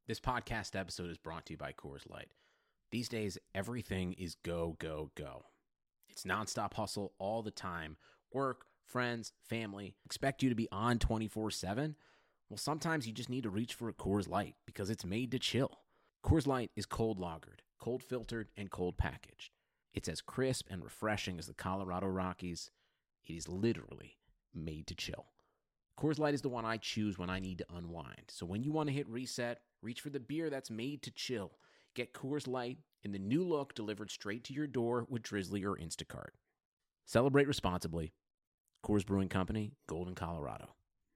This podcast episode is brought to you by Coors Light. These days, everything is go, go, go. It's nonstop hustle all the time. Work, friends, family, expect you to be on 24/7. Well, sometimes you just need to reach for a Coors Light because it's made to chill. Coors Light is cold lagered, cold filtered, and cold packaged. It's as crisp and refreshing as the Colorado Rockies. It is literally made to chill. Coors Light is the one I choose when I need to unwind. So when you want to hit reset, reach for the beer that's made to chill. Get Coors Light in the new look delivered straight to your door with Drizzly or Instacart. Celebrate responsibly. Coors Brewing Company, Golden, Colorado.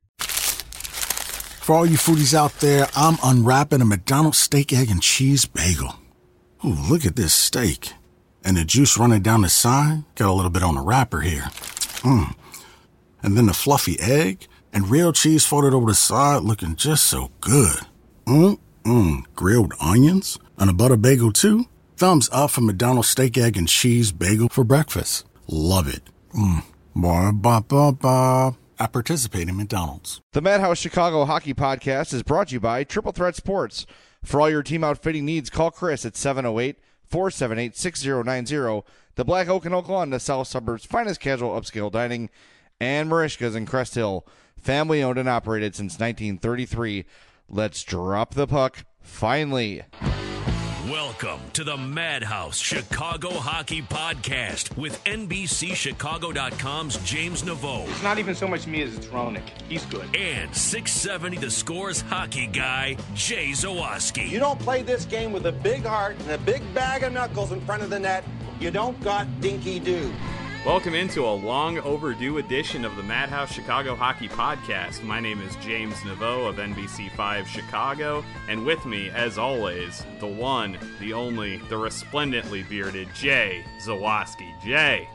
For all you foodies out there, I'm unwrapping a McDonald's steak, egg, and cheese bagel. Ooh, look at this steak. And the juice running down the side. Got a little bit on the wrapper here. And then the fluffy egg and real cheese folded over the side looking just so good. Grilled onions and a butter bagel too. Thumbs up for McDonald's steak, egg, and cheese bagel for breakfast. Love it. Ba-ba-ba-ba. I participate in McDonald's. The Madhouse Chicago Hockey Podcast is brought to you by Triple Threat Sports. For all your team outfitting needs, call Chris at 708-478-6090. The Black Oak in Oak Lawn, the South Suburbs' finest casual upscale dining, and Marishka's in Crest Hill. Family owned and operated since 1933. Let's drop the puck, finally. Welcome to the Madhouse Chicago Hockey Podcast with NBCChicago.com's James Naveau. It's not even so much me as it's Roenick. He's good. And 670 The Score's hockey guy, Jay Zawaski. You don't play this game with a big heart and a big bag of knuckles in front of the net. You don't got dinky-doo. Welcome into a long overdue edition of the Madhouse Chicago Hockey Podcast. My name is James Naveau of NBC5 Chicago, and with me, as always, the one, the only, the resplendently bearded Jay Zawaski. Jay,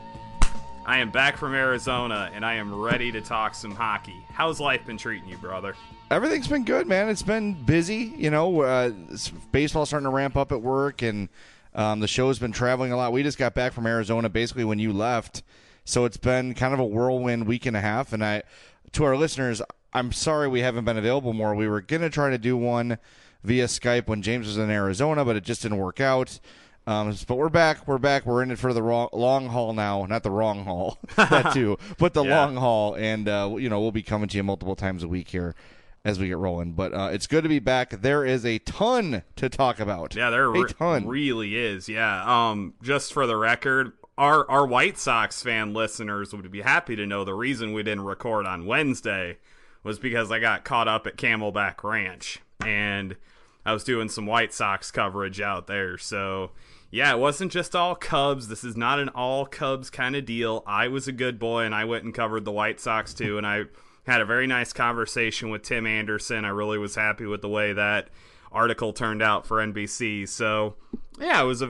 I am back from Arizona, and I am ready to talk some hockey. How's life been treating you, brother? Everything's been good, man. It's been busy. You know, baseball's starting to ramp up at work, and the show's been traveling a lot. We just got back from Arizona basically when you left, so it's been kind of a whirlwind week and a half. And to our listeners, I'm sorry we haven't been available more. We were going to try to do one via Skype when James was in Arizona, but it just didn't work out. But we're back. We're in it for the long haul now. Not the wrong haul, that too, but the long haul. And, we'll be coming to you multiple times a week here as we get rolling. But it's good to be back. There is a ton to talk about. Yeah, there really is. Yeah. Just for the record, our White Sox fan listeners would be happy to know the reason we didn't record on Wednesday was because I got caught up at Camelback Ranch, and I was doing some White Sox coverage out there. So, yeah, it wasn't just all Cubs. This is not an all Cubs kind of deal. I was a good boy, and I went and covered the White Sox, too, and I had a very nice conversation with Tim Anderson. I really was happy with the way that article turned out for NBC. So, yeah, it was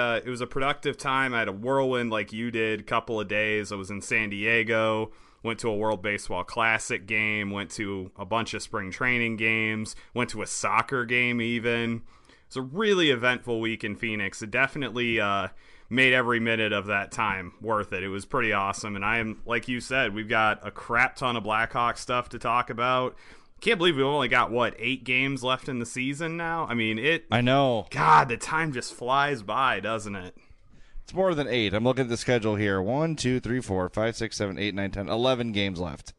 a productive time. I had a whirlwind like you did, couple of days. I was in San Diego, went to a World Baseball Classic game, went to a bunch of spring training games, went to a soccer game even. It was a really eventful week in Phoenix. It definitely made every minute of that time worth it. It was pretty awesome. And I am, like you said, we've got a crap ton of Blackhawks stuff to talk about. Can't believe we've only got, 8 games left in the season now? I mean, I know. God, the time just flies by, doesn't it? It's more than 8. I'm looking at the schedule here. 1, 2, 3, 4, 5, 6, 7, 8, 9, 10, 11 games left.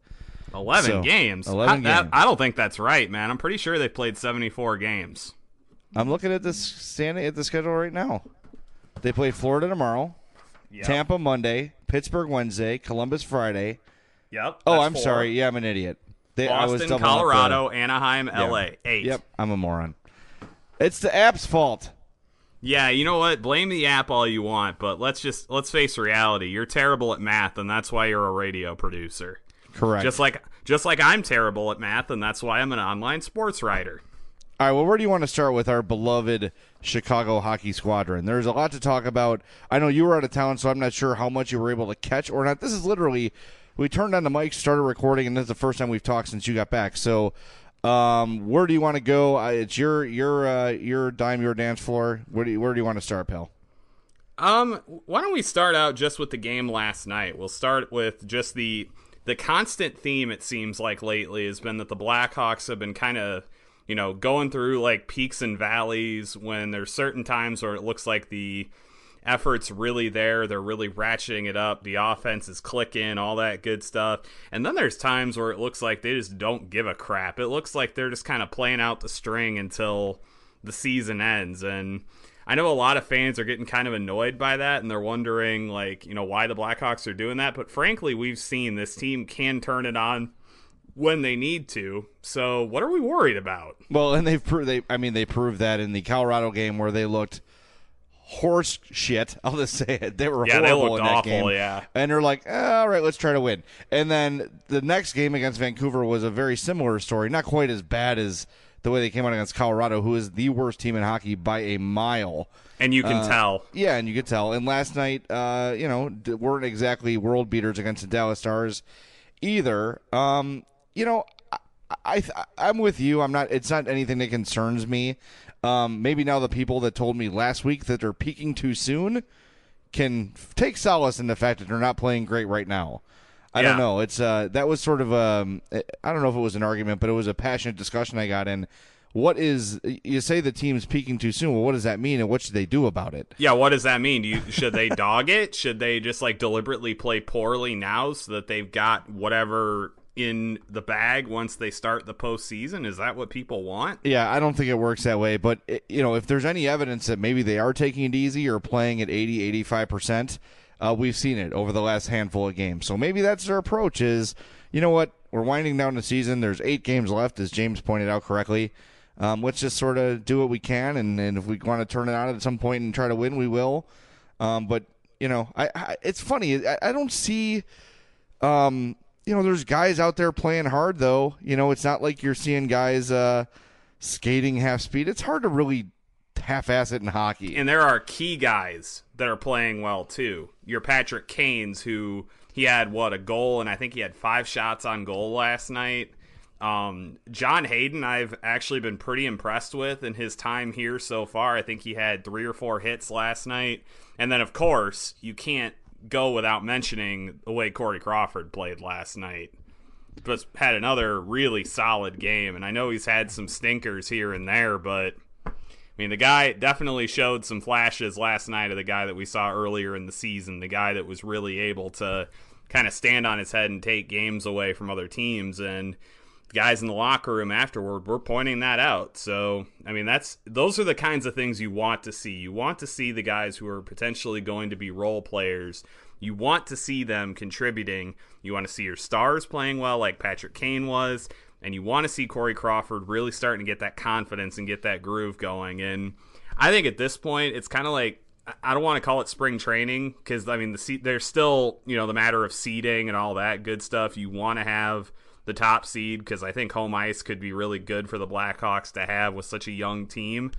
11 games? 11 games. I don't think that's right, man. I'm pretty sure they played 74 games. I'm looking at standing at the schedule right now. They play Florida tomorrow, Tampa Monday, Pittsburgh Wednesday, Columbus Friday. Yep. Oh, I'm sorry. Yeah, I'm an idiot. Boston, Colorado, Anaheim, LA. 8. Yep, I'm a moron. It's the app's fault. Yeah, you know what? Blame the app all you want, but let's face reality. You're terrible at math, and that's why you're a radio producer. Correct. Just like I'm terrible at math, and that's why I'm an online sports writer. All right, well, where do you want to start with our beloved Chicago Hockey Squadron? There's a lot to talk about. I know you were out of town, so I'm not sure how much you were able to catch or not. This is literally, we turned on the mic, started recording, and this is the first time we've talked since you got back. So where do you want to go? It's your dime, your dance floor. Where do you want to start, pal? Why don't we start out just with the game last night? We'll start with just the constant theme, it seems like lately, has been that the Blackhawks have been kind of going through like peaks and valleys when there's certain times where it looks like the effort's really there. They're really ratcheting it up. The offense is clicking, all that good stuff. And then there's times where it looks like they just don't give a crap. It looks like they're just kind of playing out the string until the season ends. And I know a lot of fans are getting kind of annoyed by that, and they're wondering, like, why the Blackhawks are doing that. But frankly, we've seen this team can turn it on when they need to. So what are we worried about? Well, and they proved that in the Colorado game where they looked horse shit. I'll just say it. They were horrible they looked in that awful, game. yeah. And they're like, all right, let's try to win. And then the next game against Vancouver was a very similar story. Not quite as bad as the way they came out against Colorado, who is the worst team in hockey by a mile. And you can tell. Yeah, and you could tell. And last night, weren't exactly world beaters against the Dallas Stars either. I'm with you. It's not anything that concerns me. Maybe now the people that told me last week that they're peaking too soon can take solace in the fact that they're not playing great right now. I don't know. It's that was sort of I don't know if it was an argument, but it was a passionate discussion I got in. You say the team's peaking too soon. Well, what does that mean, and what should they do about it? Yeah, what does that mean? Should they dog it? Should they just deliberately play poorly now so that they've got whatever in the bag once they start the postseason? Is that what people want? Yeah, I don't think it works that way. But, if there's any evidence that maybe they are taking it easy or playing at 80, 85%, we've seen it over the last handful of games. So maybe that's their approach is, you know what, we're winding down the season. There's 8 games left, as James pointed out correctly. Let's just sort of do what we can, and if we want to turn it on at some point and try to win, we will. But, it's funny. I don't see there's guys out there playing hard, though. It's not like you're seeing guys skating half speed. It's hard to really half-ass it in hockey. And there are key guys that are playing well, too. Your Patrick Kane's, who he had, a goal, and I think he had 5 shots on goal last night. John Hayden, I've actually been pretty impressed with in his time here so far. I think he had 3 or 4 hits last night. And then, of course, you can't go without mentioning the way Corey Crawford played last night. Just had another really solid game, and I know he's had some stinkers here and there, but the guy definitely showed some flashes last night of the guy that we saw earlier in the season, the guy that was really able to kind of stand on his head and take games away from other teams. And the guys in the locker room afterward were pointing that out. So, those are the kinds of things you want to see. You want to see the guys who are potentially going to be role players. You want to see them contributing. You want to see your stars playing well like Patrick Kane was. And you want to see Corey Crawford really starting to get that confidence and get that groove going. And I think at this point, it's kind of like, I don't want to call it spring training because, there's still, the matter of seeding and all that good stuff. You want to have the top seed because I think home ice could be really good for the Blackhawks to have with such a young team.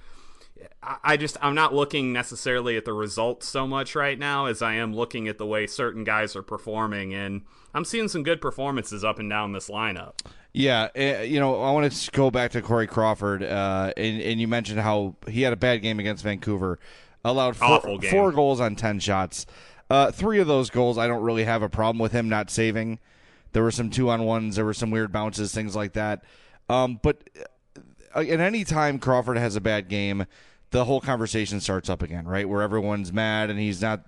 I'm not looking necessarily at the results so much right now as I am looking at the way certain guys are performing, and I'm seeing some good performances up and down this lineup. Yeah, I want to go back to Corey Crawford, and you mentioned how he had a bad game against Vancouver, allowed 4 goals on 10 shots. 3 of those goals I don't really have a problem with him not saving. There were some 2-on-1s. There were some weird bounces, things like that. But at any time Crawford has a bad game, the whole conversation starts up again, right? Where everyone's mad and he's not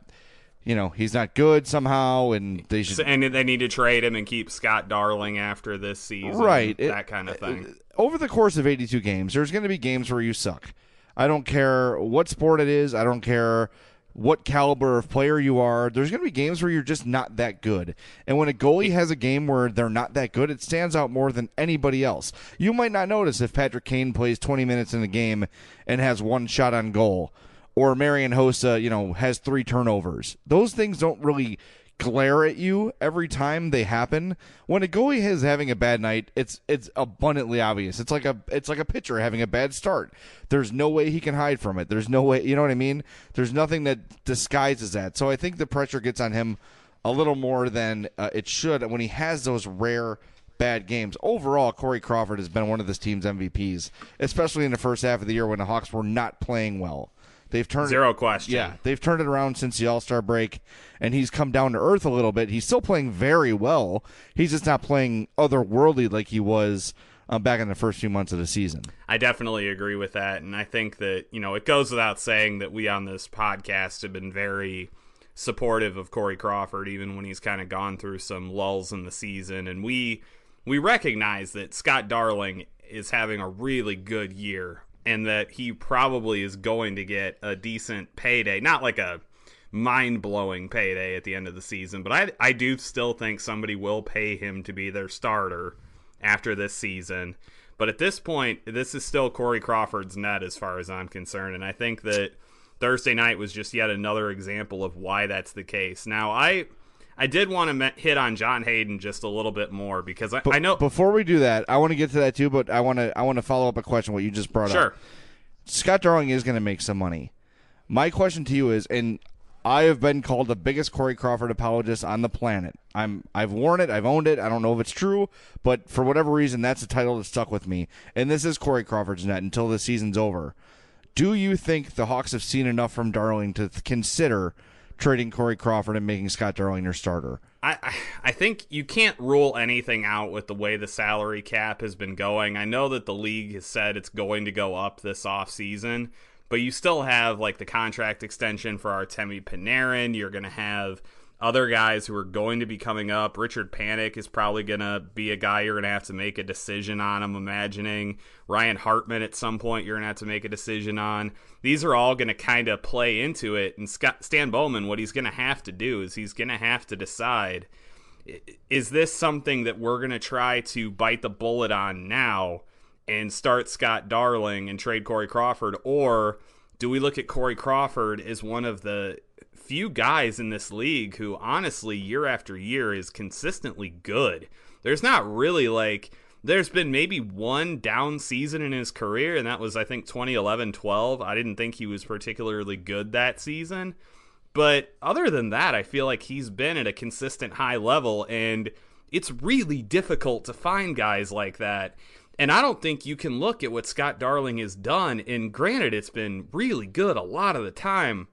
good somehow, and they should. And they need to trade him and keep Scott Darling after this season, right? That kind of thing. Over the course of 82 games, there's going to be games where you suck. I don't care what sport it is. I don't care what caliber of player you are. There's going to be games where you're just not that good. And when a goalie has a game where they're not that good, it stands out more than anybody else. You might not notice if Patrick Kane plays 20 minutes in a game and has 1 shot on goal, or Marian Hossa, has 3 turnovers. Those things don't really glare at you every time they happen. When a goalie is having a bad night, it's abundantly obvious. It's like a pitcher having a bad start. There's no way he can hide from it. There's no way, you know what I mean? There's nothing that disguises that. So I think the pressure gets on him a little more than it should when he has those rare bad games. Overall, Corey Crawford has been one of this team's MVPs, especially in the first half of the year when the Hawks were not playing well. They've turned Zero question. Yeah, they've turned it around since the All-Star break, and he's come down to earth a little bit. He's still playing very well. He's just not playing otherworldly like he was back in the first few months of the season. I definitely agree with that, and I think that, it goes without saying that we on this podcast have been very supportive of Corey Crawford, even when he's kind of gone through some lulls in the season, and we recognize that Scott Darling is having a really good year, and that he probably is going to get a decent payday, not like a mind-blowing payday at the end of the season, but I do still think somebody will pay him to be their starter after this season. But at this point, this is still Corey Crawford's net as far as I'm concerned, and I think that Thursday night was just yet another example of why that's the case. Now, I did want to hit on John Hayden just a little bit more, because I know... Before we do that, I want to get to that too, but I want to follow up a question, what you just brought up. Sure. Scott Darling is going to make some money. My question to you is, and I have been called the biggest Corey Crawford apologist on the planet. I've worn it. I've owned it. I don't know if it's true, but for whatever reason, that's a title that stuck with me. And this is Corey Crawford's net until the season's over. Do you think the Hawks have seen enough from Darling to consider trading Corey Crawford and making Scott Darling their starter? I think you can't rule anything out with the way the salary cap has been going. I know that the league has said it's going to go up this offseason, but you still have like the contract extension for Artemi Panarin. You're going to have other guys who are going to be coming up. Richard Panik is probably going to be a guy you're going to have to make a decision on, I'm imagining. Ryan Hartman at some point you're going to have to make a decision on. These are all going to kind of play into it. And Stan Bowman, what he's going to have to do is he's going to have to decide, is this something that we're going to try to bite the bullet on now and start Scott Darling and trade Corey Crawford, or do we look at Corey Crawford as one of the few guys in this league who honestly year after year is consistently good? There's not really there's been maybe one down season in his career, and that was I think 2011-12. I didn't think he was particularly good that season, but other than that, I feel like he's been at a consistent high level, and it's really difficult to find guys like that. And I don't think you can look at what Scott Darling has done, and granted, it's been really good a lot of the time.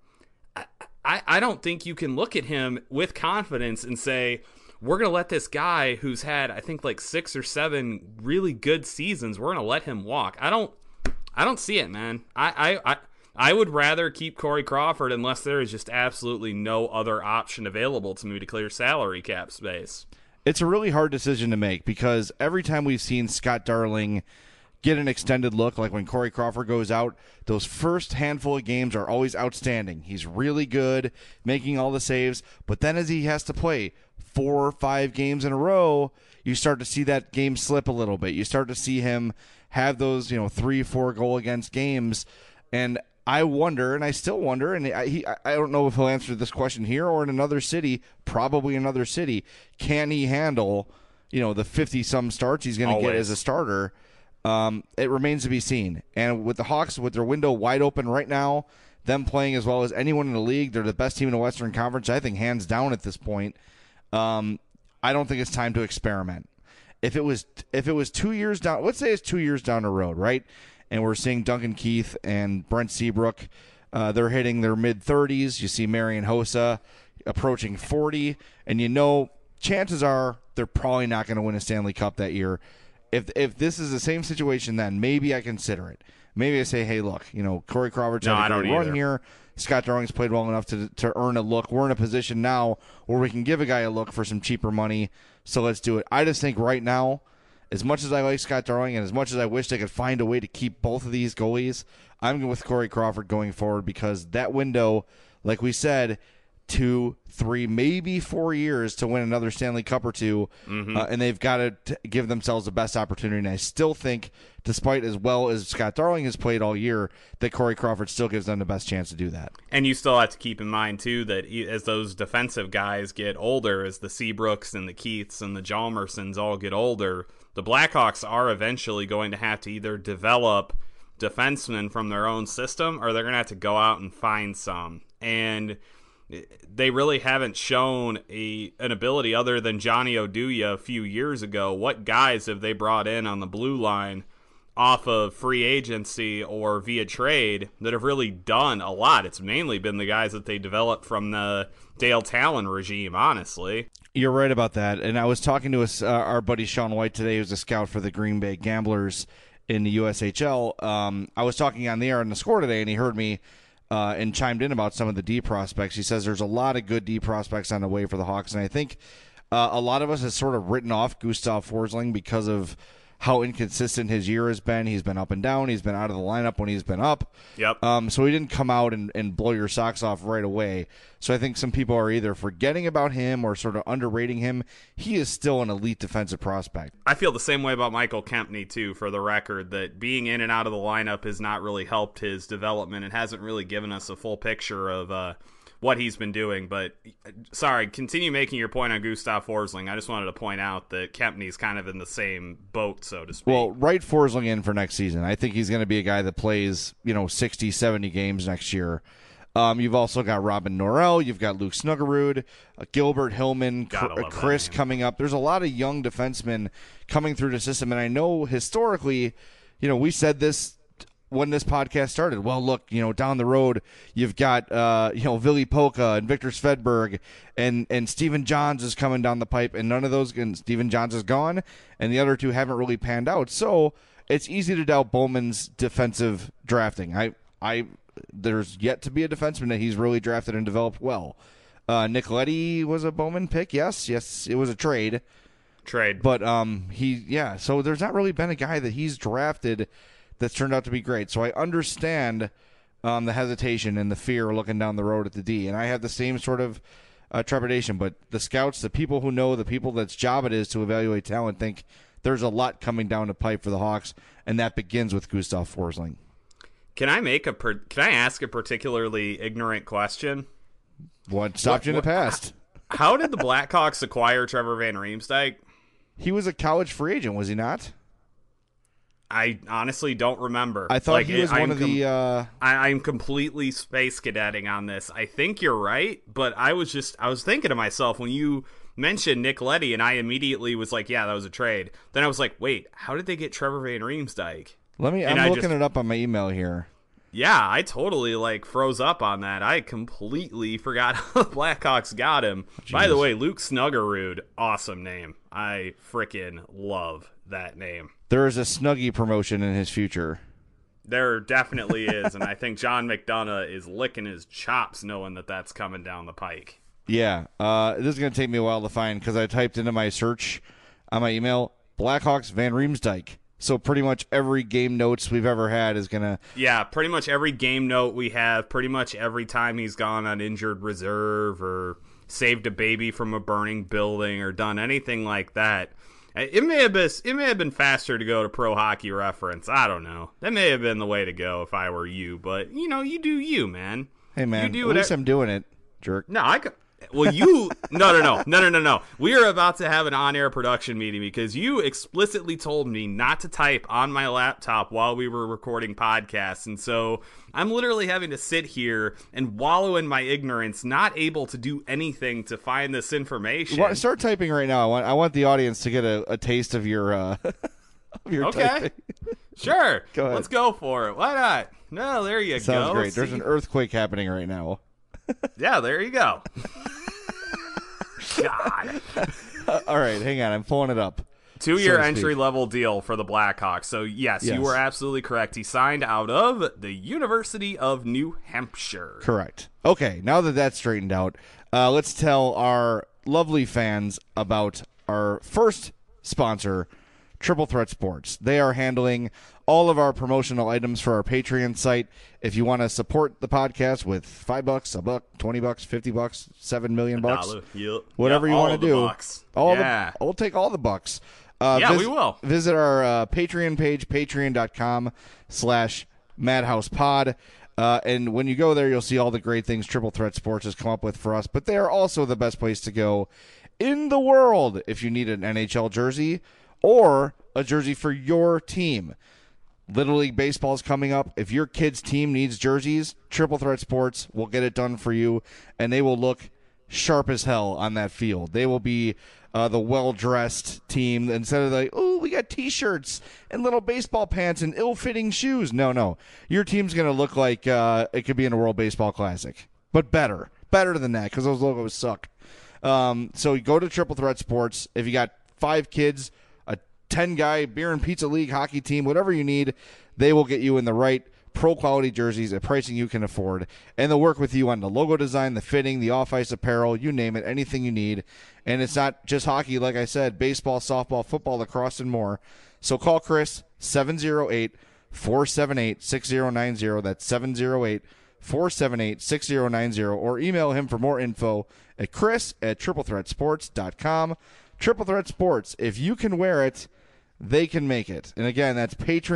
I don't think you can look at him with confidence and say, we're going to let this guy who's had, I think, like 6 or 7 really good seasons, we're going to let him walk. I don't see it, man. I would rather keep Corey Crawford unless there is just absolutely no other option available to me to clear salary cap space. It's a really hard decision to make, because every time we've seen Scott Darling get an extended look, like when Corey Crawford goes out, those first handful of games are always outstanding. He's really good, making all the saves, but then as he has to play 4 or 5 games in a row, you start to see that game slip a little bit. You start to see him have those 3-4 goal against games, and I wonder, and I still wonder, and I don't know if he'll answer this question here or in another city, probably another city, can he handle the 50-some starts he's going to get as a starter? It remains to be seen. And with the Hawks, with their window wide open right now, them playing as well as anyone in the league, they're the best team in the Western Conference, I think, hands down at this point. I don't think it's time to experiment. If it was 2 years down, let's say it's 2 years down the road, right? And we're seeing Duncan Keith and Brent Seabrook, they're hitting their mid-30s. You see Marian Hossa approaching 40, and chances are they're probably not going to win a Stanley Cup that year. If this is the same situation, then maybe I consider it. Maybe I say, hey, look, Corey Crawford's had a good run here. Scott Darling's played well enough to earn a look. We're in a position now where we can give a guy a look for some cheaper money, so let's do it. I just think right now, as much as I like Scott Darling and as much as I wish they could find a way to keep both of these goalies, I'm with Corey Crawford going forward, because that window, like we said, 2, 3, maybe 4 years to win another Stanley Cup or two, and they've got to give themselves the best opportunity. And I still think, despite as well as Scott Darling has played all year, that Corey Crawford still gives them the best chance to do that. And you still have to keep in mind, too, that as those defensive guys get older, as the Seabrooks and the Keiths and the Hjalmarssons all get older, the Blackhawks are eventually going to have to either develop defensemen from their own system, or they're going to have to go out and find some. And they really haven't shown an ability other than Johnny Oduya a few years ago. What guys have they brought in on the blue line off of free agency or via trade that have really done a lot. It's mainly been the guys that they developed from the Dale Talon regime, honestly. You're right about that. And I was talking to our buddy Sean White today, who's a scout for the Green Bay Gamblers in the USHL. I was talking on the air on the Score today, and he heard me and chimed in about some of the D prospects. He says there's a lot of good D prospects on the way for the Hawks, and I think a lot of us has sort of written off Gustav Forsling because of how inconsistent his year has been. He's been up and down. He's been out of the lineup when he's been up. Yep. So he didn't come out and blow your socks off right away. So I think some people are either forgetting about him or sort of underrating him. He is still an elite defensive prospect. I feel the same way about Michael Kempny, too, for the record, that being in and out of the lineup has not really helped his development. It hasn't really given us a full picture of what he's been doing. But, sorry, continue making your point on Gustav Forsling. I just wanted to point out that Kempny's kind of in the same boat, so to speak. Well, write Forsling in for next season. I think he's going to be a guy that plays, 60, 70 games next year. You've also got Robin Norrell. You've got Luke Snuggerud, Gilbert Hillman, Chris coming up. There's a lot of young defensemen coming through the system. And I know historically, we said this when this podcast started. Well, look, down the road, you've got, Ville Polka and Victor Svedberg and Stephen Johns is coming down the pipe, and none of those, and Stephen Johns is gone, and the other two haven't really panned out. So it's easy to doubt Bowman's defensive drafting. There's yet to be a defenseman that he's really drafted and developed well. Nick Leddy was a Bowman pick. Yes, it was a trade. But so there's not really been a guy that he's drafted that's turned out to be great. So I understand the hesitation and the fear looking down the road at the D, and I have the same sort of trepidation. But the scouts, the people who know, the people that's job it is to evaluate talent, think there's a lot coming down the pipe for the Hawks, and that begins with Gustav Forsling. Can I ask a particularly ignorant question? What stopped you in the past? How did the Blackhawks acquire Trevor Van Riemsdyk? He was a college free agent, was he not? I honestly don't remember. I thought he was one of the... I'm completely space cadetting on this. I think you're right, but I was thinking to myself when you mentioned Nick Leddy, and I immediately was like, yeah, that was a trade. Then I was like, wait, how did they get Trevor Van Riemsdyk? I'm looking it up on my email here. Yeah, I totally froze up on that. I completely forgot how the Blackhawks got him. Jeez. By the way, Luke Snuggerud, awesome name. I freaking love that name. There is a Snuggie promotion in his future. There definitely is, and I think John McDonough is licking his chops knowing that that's coming down the pike. Yeah, this is going to take me a while to find because I typed into my search on my email, Blackhawks Van Riemsdyk. So pretty much every game notes we've ever had is going to... Yeah, pretty much every game note we have, pretty much every time he's gone on injured reserve or saved a baby from a burning building or done anything like that. It may have been faster to go to Pro Hockey Reference. I don't know. That may have been the way to go if I were you, but, you do you, man. Hey, man, at least I'm doing it, jerk. No, I could... Well, you... No. We are about to have an on-air production meeting because you explicitly told me not to type on my laptop while we were recording podcasts, and so I'm literally having to sit here and wallow in my ignorance, not able to do anything to find this information. Start typing right now. I want the audience to get a taste of your of your okay. typing. Sure. Go ahead. Let's go for it. Why not? No, there you go. Sounds great. See? There's an earthquake happening right now. Yeah, there you go. God. All right, hang on. I'm pulling it up. 2-year entry-level deal for the Blackhawks. So, yes, you were absolutely correct. He signed out of the University of New Hampshire. Correct. Okay, now that that's straightened out, let's tell our lovely fans about our first sponsor, Triple Threat Sports. They are handling all of our promotional items for our Patreon site. If you want to support the podcast with $5, $1, $20, $50, $7 million, whatever you want to do, we'll take all the bucks. We will. Visit our Patreon page, patreon.com/MadhousePod. And when you go there, you'll see all the great things Triple Threat Sports has come up with for us. But they are also the best place to go in the world if you need an NHL jersey or a jersey for your team. Little League Baseball is coming up. If your kid's team needs jerseys, Triple Threat Sports will get it done for you, and they will look sharp as hell on that field. They will be the well-dressed team instead of like, oh, we got T-shirts and little baseball pants and ill-fitting shoes. No. Your team's going to look like it could be in a World Baseball Classic, but better than that because those logos suck. So you go to Triple Threat Sports. If you got 5 kids, a 10-guy beer and pizza league hockey team, whatever you need, they will get you in the right pro-quality jerseys at pricing you can afford, and they'll work with you on the logo design, the fitting, the off-ice apparel, you name it, anything you need. And it's not just hockey, like I said, baseball, softball, football, lacrosse, and more. So call Chris, 708-478-6090. That's 708-478-6090, or email him for more info at chris@triplethreatsports.com. Triple Threat Sports, if you can wear it, they can make it. And again, that's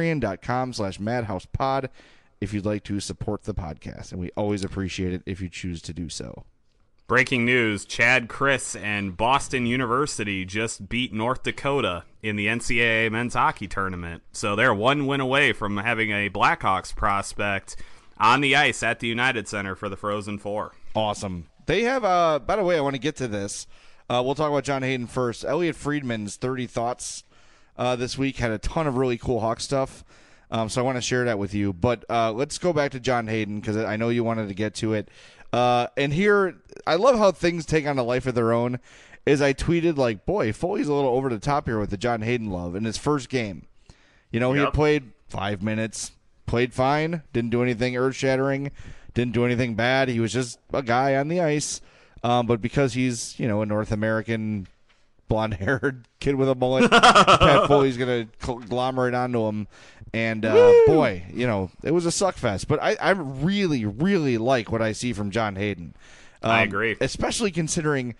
patreon.com/madhousepod if you'd like to support the podcast. And we always appreciate it if you choose to do so. Breaking news, Chad Chris and Boston University just beat North Dakota in the NCAA men's hockey tournament. So they're one win away from having a Blackhawks prospect on the ice at the United Center for the Frozen Four. Awesome. They have, by the way, I want to get to this. We'll talk about John Hayden first. Elliot Friedman's 30 Thoughts this week had a ton of really cool Hawk stuff, so I want to share that with you. But let's go back to John Hayden because I know you wanted to get to it. And here, I love how things take on a life of their own. Is I tweeted like, boy, Foley's a little over the top here with the John Hayden love in his first game. You know, he had played 5 minutes, played fine, didn't do anything earth-shattering, didn't do anything bad. He was just a guy on the ice. But because he's, you know, a North American blonde-haired kid with a mullet, Pat Foley's going to conglomerate onto him. And, boy, you know, it was a suck fest. But I really, really like what I see from John Hayden. I agree. Especially considering,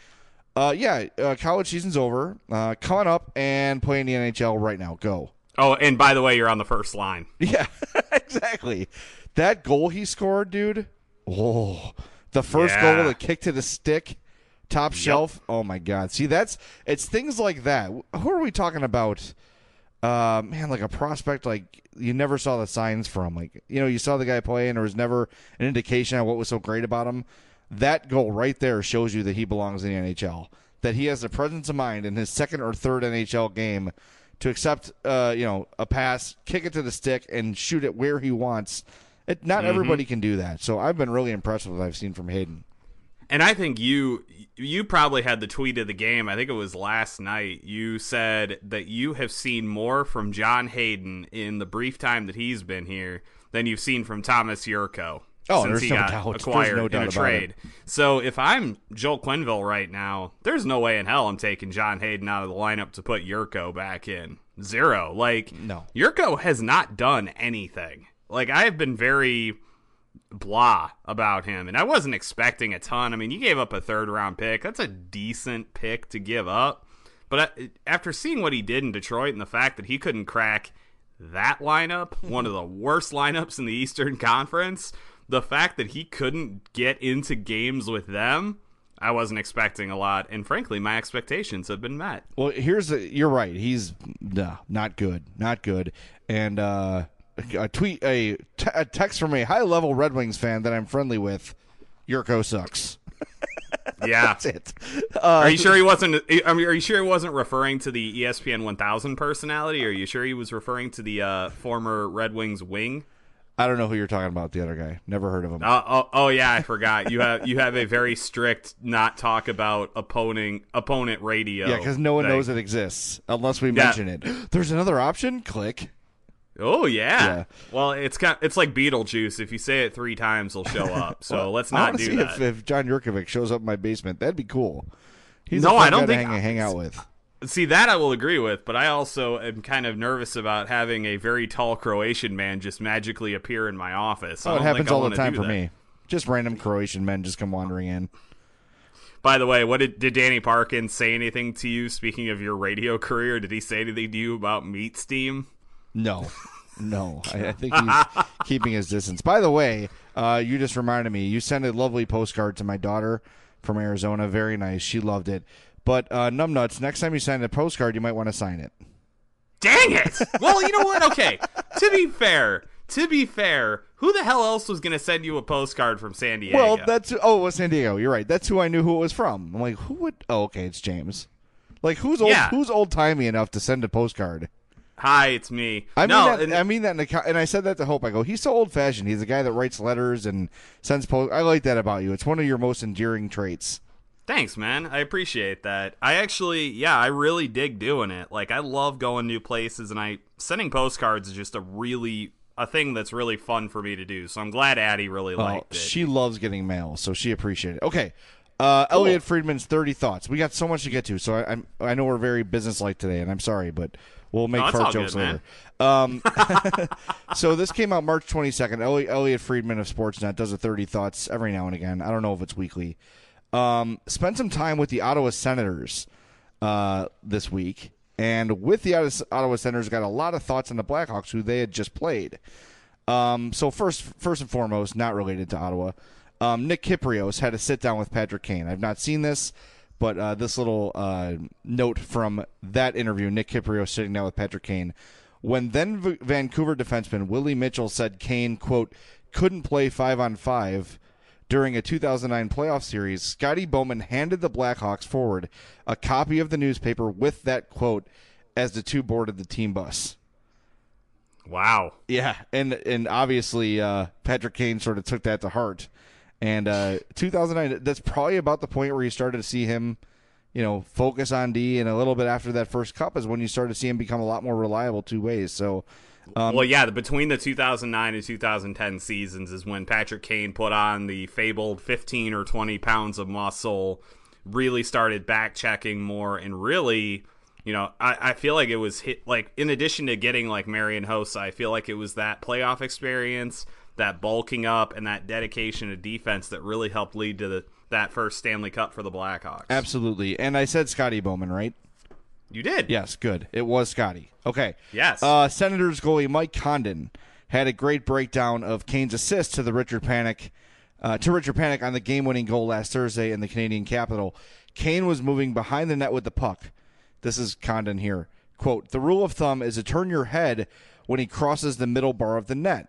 college season's over, coming up and playing the NHL right now. Go. Oh, and by the way, you're on the first line. Yeah, exactly. That goal he scored, dude. Oh, the first goal, the kick to the stick, top shelf. Oh, my God. See, it's things like that. Who are we talking about? Man, like a prospect, like you never saw the signs from. Like, you know, you saw the guy play and there was never an indication of what was so great about him. That goal right there shows you that he belongs in the NHL, that he has the presence of mind in his second or third NHL game to accept, a pass, kick it to the stick, and shoot it where he wants. Not everybody can do that. So I've been really impressed with what I've seen from Hayden. And I think you probably had the tweet of the game. I think it was last night. You said that you have seen more from John Hayden in the brief time that he's been here than you've seen from Thomas Yurko since he got acquired in a trade. So if I'm Joel Quenneville right now, there's no way in hell I'm taking John Hayden out of the lineup to put Yurko back in. Zero. Like, no. Yurko has not done anything. Like, I have been very blah about him, and I wasn't expecting a ton. I mean, you gave up a third-round pick. That's a decent pick to give up. But after seeing what he did in Detroit and the fact that he couldn't crack that lineup, one of the worst lineups in the Eastern Conference, the fact that he couldn't get into games with them, I wasn't expecting a lot. And frankly, my expectations have been met. Well, you're right. He's not good. Not good. And a text from a high-level Red Wings fan that I'm friendly with, Yurko sucks. Yeah, that's it. Are you sure he wasn't? Are you sure he wasn't referring to the ESPN 1000 personality? Are you sure he was referring to the former Red Wings wing? I don't know who you're talking about. The other guy, never heard of him. Oh yeah, I forgot. You have a very strict not talk about opponent radio. Yeah, because no one knows it exists unless we mention it. There's another option. Click. Oh yeah. Well, it's like Beetlejuice. If you say it 3 times, he'll show up. So let's not do that. If John Yurkovic shows up in my basement, that'd be cool. He's I don't guy think to hang out with. See, that I will agree with, but I also am kind of nervous about having a very tall Croatian man just magically appear in my office. Oh, it happens all the time for me. Just random Croatian men just come wandering in. By the way, did Danny Parkin say anything to you, speaking of your radio career? Did he say anything to you about Meat Steam? No. I think he's keeping his distance. By the way, you just reminded me, you sent a lovely postcard to my daughter from Arizona. Very nice. She loved it. But, Numbnuts, next time you send a postcard, you might want to sign it. Dang it! Well, you know what? Okay. To be fair, to be fair, who the hell else was going to send you a postcard from San Diego? Well, it was San Diego. You're right. That's who I knew who it was from. I'm like, who would? Oh, okay, it's James. Like, who's old timey enough to send a postcard? Hi, it's me. I mean that, and I said that to Hope. I go, he's so old fashioned. He's a guy that writes letters and sends post. I like that about you. It's one of your most endearing traits. Thanks, man. I appreciate that. I really dig doing it. Like, I love going new places, and sending postcards is just a thing that's really fun for me to do. So I'm glad Addie really liked it. She loves getting mail, so she appreciated it. Okay. Elliot Friedman's 30 thoughts. We got so much to get to, so I know we're very businesslike today, and I'm sorry, but we'll make fart jokes later. So this came out March 22nd. Elliot Friedman of Sportsnet does a 30 thoughts every now and again. I don't know if it's weekly. Spent some time with the Ottawa Senators this week, and with the Ottawa Senators, got a lot of thoughts on the Blackhawks, who they had just played. So first and foremost, not related to Ottawa, Nick Kypreos had a sit-down with Patrick Kane. I've not seen this, but this little note from that interview, Nick Kypreos sitting down with Patrick Kane. When then Vancouver defenseman Willie Mitchell said Kane, quote, couldn't play 5-on-5 during a 2009 playoff series, Scotty Bowman handed the Blackhawks forward a copy of the newspaper with that quote as the two boarded the team bus. Wow. Yeah, and obviously Patrick Kane sort of took that to heart. And 2009, that's probably about the point where you started to see him, focus on D, and a little bit after that first cup is when you started to see him become a lot more reliable two ways. So, between the 2009 and 2010 seasons is when Patrick Kane put on the fabled 15 or 20 pounds of muscle, really started back-checking more, and really, I feel like it was hit, like, in addition to getting, like, Marian Hossa, I feel like it was that playoff experience, that bulking up, and that dedication to defense that really helped lead to that first Stanley Cup for the Blackhawks. Absolutely. And I said Scotty Bowman, right? You did. Yes, good. It was Scotty. Okay. Yes. Senators goalie Mike Condon had a great breakdown of Kane's assist to Richard Panik on the game-winning goal last Thursday in the Canadian capital. Kane was moving behind the net with the puck. This is Condon here. Quote, the rule of thumb is to turn your head when he crosses the middle bar of the net.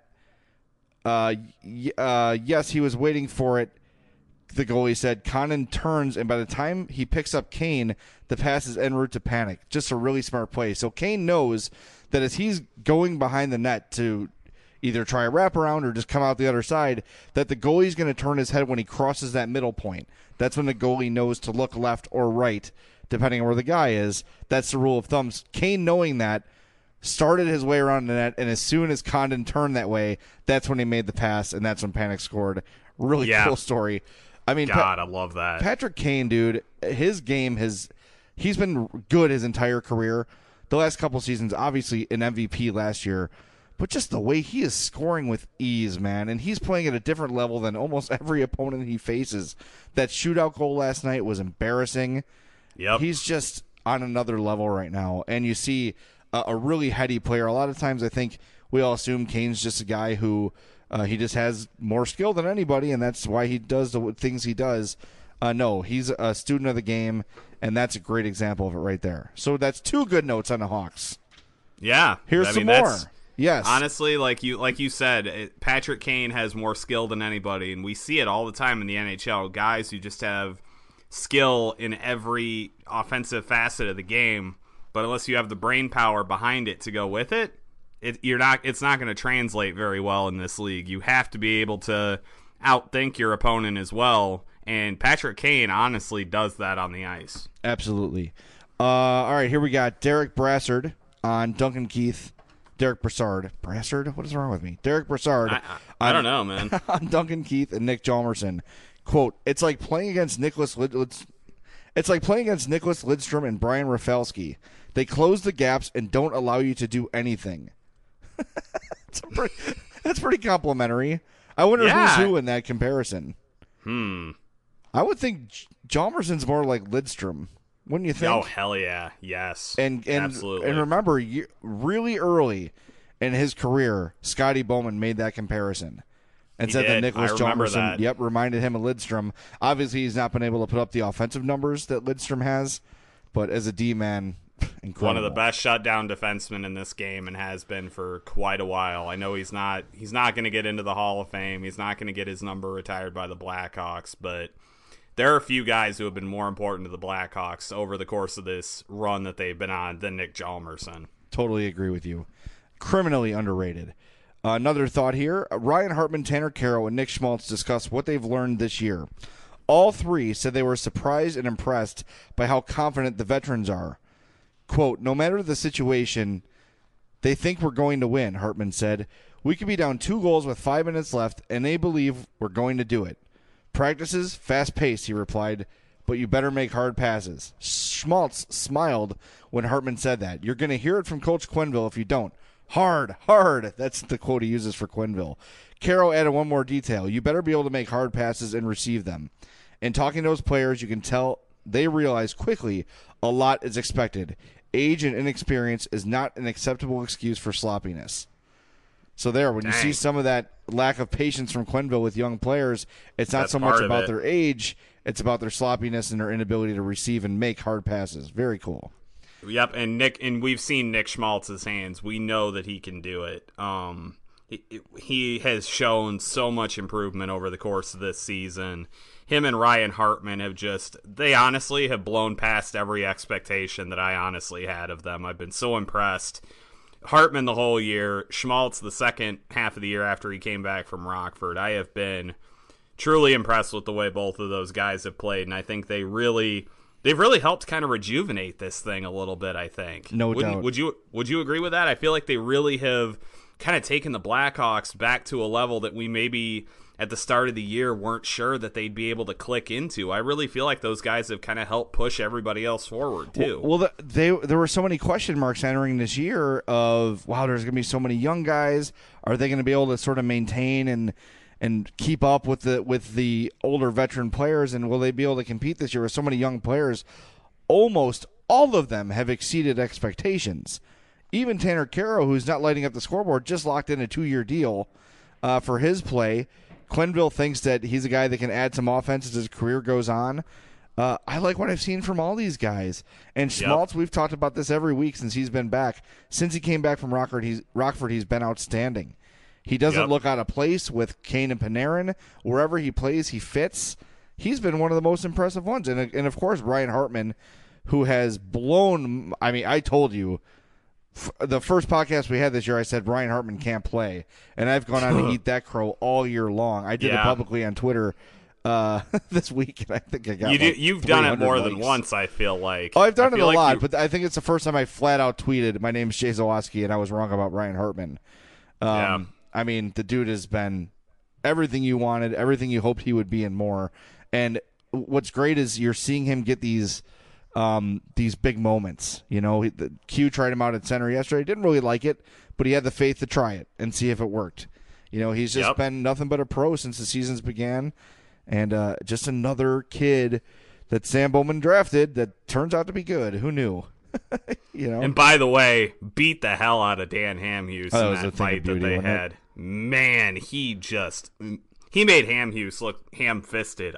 Yes, he was waiting for it. The goalie said Condon turns, and by the time he picks up Kane, the pass is en route to Panik. Just a really smart play. So Kane knows that as he's going behind the net to either try a wraparound or just come out the other side, that the goalie's going to turn his head when he crosses that middle point. That's when the goalie knows to look left or right, depending on where the guy is. That's the rule of thumb. Kane, knowing that, started his way around the net, and as soon as Condon turned that way, that's when he made the pass, and that's when Panik scored. Really cool story. I mean, God, I love that. Patrick Kane, dude, his game he's been good his entire career. The last couple seasons, obviously an MVP last year, but just the way he is scoring with ease, man, and he's playing at a different level than almost every opponent he faces. That shootout goal last night was embarrassing. Yep. He's just on another level right now, and you see a really heady player. A lot of times I think we all assume Kane's just a guy who he just has more skill than anybody, and that's why he does the things he does. No, he's a student of the game, and that's a great example of it right there. So that's two good notes on the Hawks. Yeah. Here's some more. Yes. Honestly, like you said, Patrick Kane has more skill than anybody, and we see it all the time in the NHL. Guys who just have skill in every offensive facet of the game, but unless you have the brain power behind it to go with it, it's not going to translate very well in this league. You have to be able to outthink your opponent as well, and Patrick Kane honestly does that on the ice. Absolutely. All right, here we got Derek Brassard on Duncan Keith. Derek Brassard. Brassard? What is wrong with me? Derek Brassard. I don't know, man. On Duncan Keith and Nick Hjalmarsson. Quote, it's like playing against Nicholas Lidstrom and Brian Rafalski. They close the gaps and don't allow you to do anything. That's pretty complimentary. I wonder who's who in that comparison. I would think Hjalmarsson's more like Lidstrom. Wouldn't you think? Oh, hell yeah. Yes. And absolutely. And remember, really early in his career, Scotty Bowman made that comparison and said that Nicholas Hjalmarsson reminded him of Lidstrom. Obviously, he's not been able to put up the offensive numbers that Lidstrom has, but as a D-man, Incredible. One of the best shutdown defensemen in this game and has been for quite a while. I know he's not going to get into the Hall of Fame. He's not going to get his number retired by the Blackhawks, but there are a few guys who have been more important to the Blackhawks over the course of this run that they've been on than Nick Hjalmarsson. Totally agree with you. Criminally underrated. Another thought here. Ryan Hartman, Tanner Kero, and Nick Schmaltz discussed what they've learned this year. All three said they were surprised and impressed by how confident the veterans are. Quote, no matter the situation, they think we're going to win, Hartman said. We could be down 2 goals with 5 minutes left, and they believe we're going to do it. Practices, fast-paced, he replied, but you better make hard passes. Schmaltz smiled when Hartman said that. You're going to hear it from Coach Quenneville if you don't. Hard, hard. That's the quote he uses for Quenneville. Caro added one more detail. You better be able to make hard passes and receive them. In talking to those players, you can tell they realize quickly a lot is expected. Age and inexperience is not an acceptable excuse for sloppiness. So when you see some of that lack of patience from Quenneville with young players, it's not so much about their age, it's about their sloppiness and their inability to receive and make hard passes. Very cool. Yep, and we've seen Nick Schmaltz's hands. We know that he can do it. He has shown so much improvement over the course of this season. Him and Ryan Hartman they honestly have blown past every expectation that I honestly had of them. I've been so impressed. Hartman the whole year, Schmaltz the second half of the year after he came back from Rockford. I have been truly impressed with the way both of those guys have played, and I think they've really helped kind of rejuvenate this thing a little bit, I think. No doubt. Would you agree with that? I feel like they really have kind of taken the Blackhawks back to a level that we maybe at the start of the year weren't sure that they'd be able to click into. I really feel like those guys have kind of helped push everybody else forward, too. Well, there were so many question marks entering this year of, wow, there's going to be so many young guys. Are they going to be able to sort of maintain and keep up with the older veteran players, and will they be able to compete this year with so many young players? Almost all of them have exceeded expectations. Even Tanner Kero, who's not lighting up the scoreboard, just locked in a 2-year deal for his play. Quenneville thinks that he's a guy that can add some offense as his career goes on. I like what I've seen from all these guys. And Schmaltz, we've talked about this every week since he's been back. Since he came back from Rockford, he's been outstanding. He doesn't look out of place with Kane and Panarin. Wherever he plays, he fits. He's been one of the most impressive ones. And of course, Ryan Hartman, who has blown – I mean, I told you – the first podcast we had this year, I said Ryan Hartman can't play, and I've gone on to eat that crow all year long. I did it publicly on Twitter this week, and I think I got you've done it more than once, I feel like. Oh, I've done it a lot, but I think it's the first time I flat out tweeted, my name's Jay Zawoski, and I was wrong about Ryan Hartman. I mean, the dude has been everything you wanted, everything you hoped he would be, and more. And what's great is you're seeing him get these big moments. You know, the Q tried him out at center yesterday. Didn't really like it, but he had the faith to try it and see if it worked. You know, he's just been nothing but a pro since the seasons began, and just another kid that Sam Bowman drafted that turns out to be good. Who knew? You know. And by the way, beat the hell out of Dan Hamhuis in that fight that they had. Man, he made Hamhuis look ham-fisted.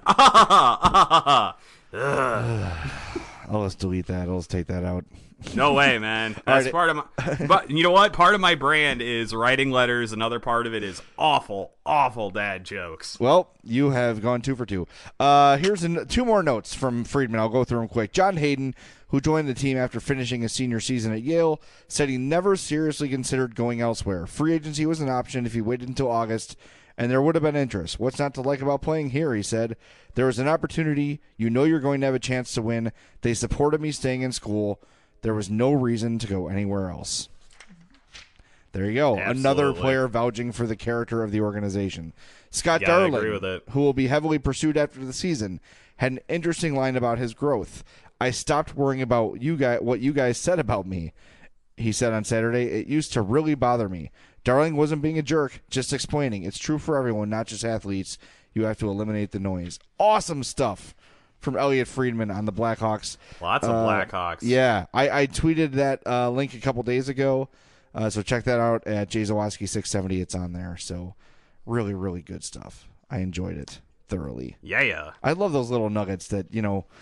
I'll just delete that. I'll just take that out. No way, man. That's part of my. But you know what? Part of my brand is writing letters. Another part of it is awful dad jokes. Well, you have gone 2 for 2. Here's 2 more notes from Friedman. I'll go through them quick. John Hayden, who joined the team after finishing his senior season at Yale, said he never seriously considered going elsewhere. Free agency was an option if he waited until August, and there would have been interest. What's not to like about playing here, he said. There was an opportunity. You know you're going to have a chance to win. They supported me staying in school. There was no reason to go anywhere else. There you go. Absolutely. Another player vouching for the character of the organization. Scott Darling, I agree with it. who will be heavily pursued after the season, had an interesting line about his growth. I stopped worrying about what you guys said about me, he said on Saturday. It used to really bother me. Darling wasn't being a jerk, just explaining. It's true for everyone, not just athletes. You have to eliminate the noise. Awesome stuff from Elliot Friedman on the Blackhawks. Lots of Blackhawks. Yeah, I tweeted that link a couple days ago, so check that out at Jay Zawoski 670. It's on there. So really, really good stuff. I enjoyed it thoroughly. Yeah. I love those little nuggets that, you know,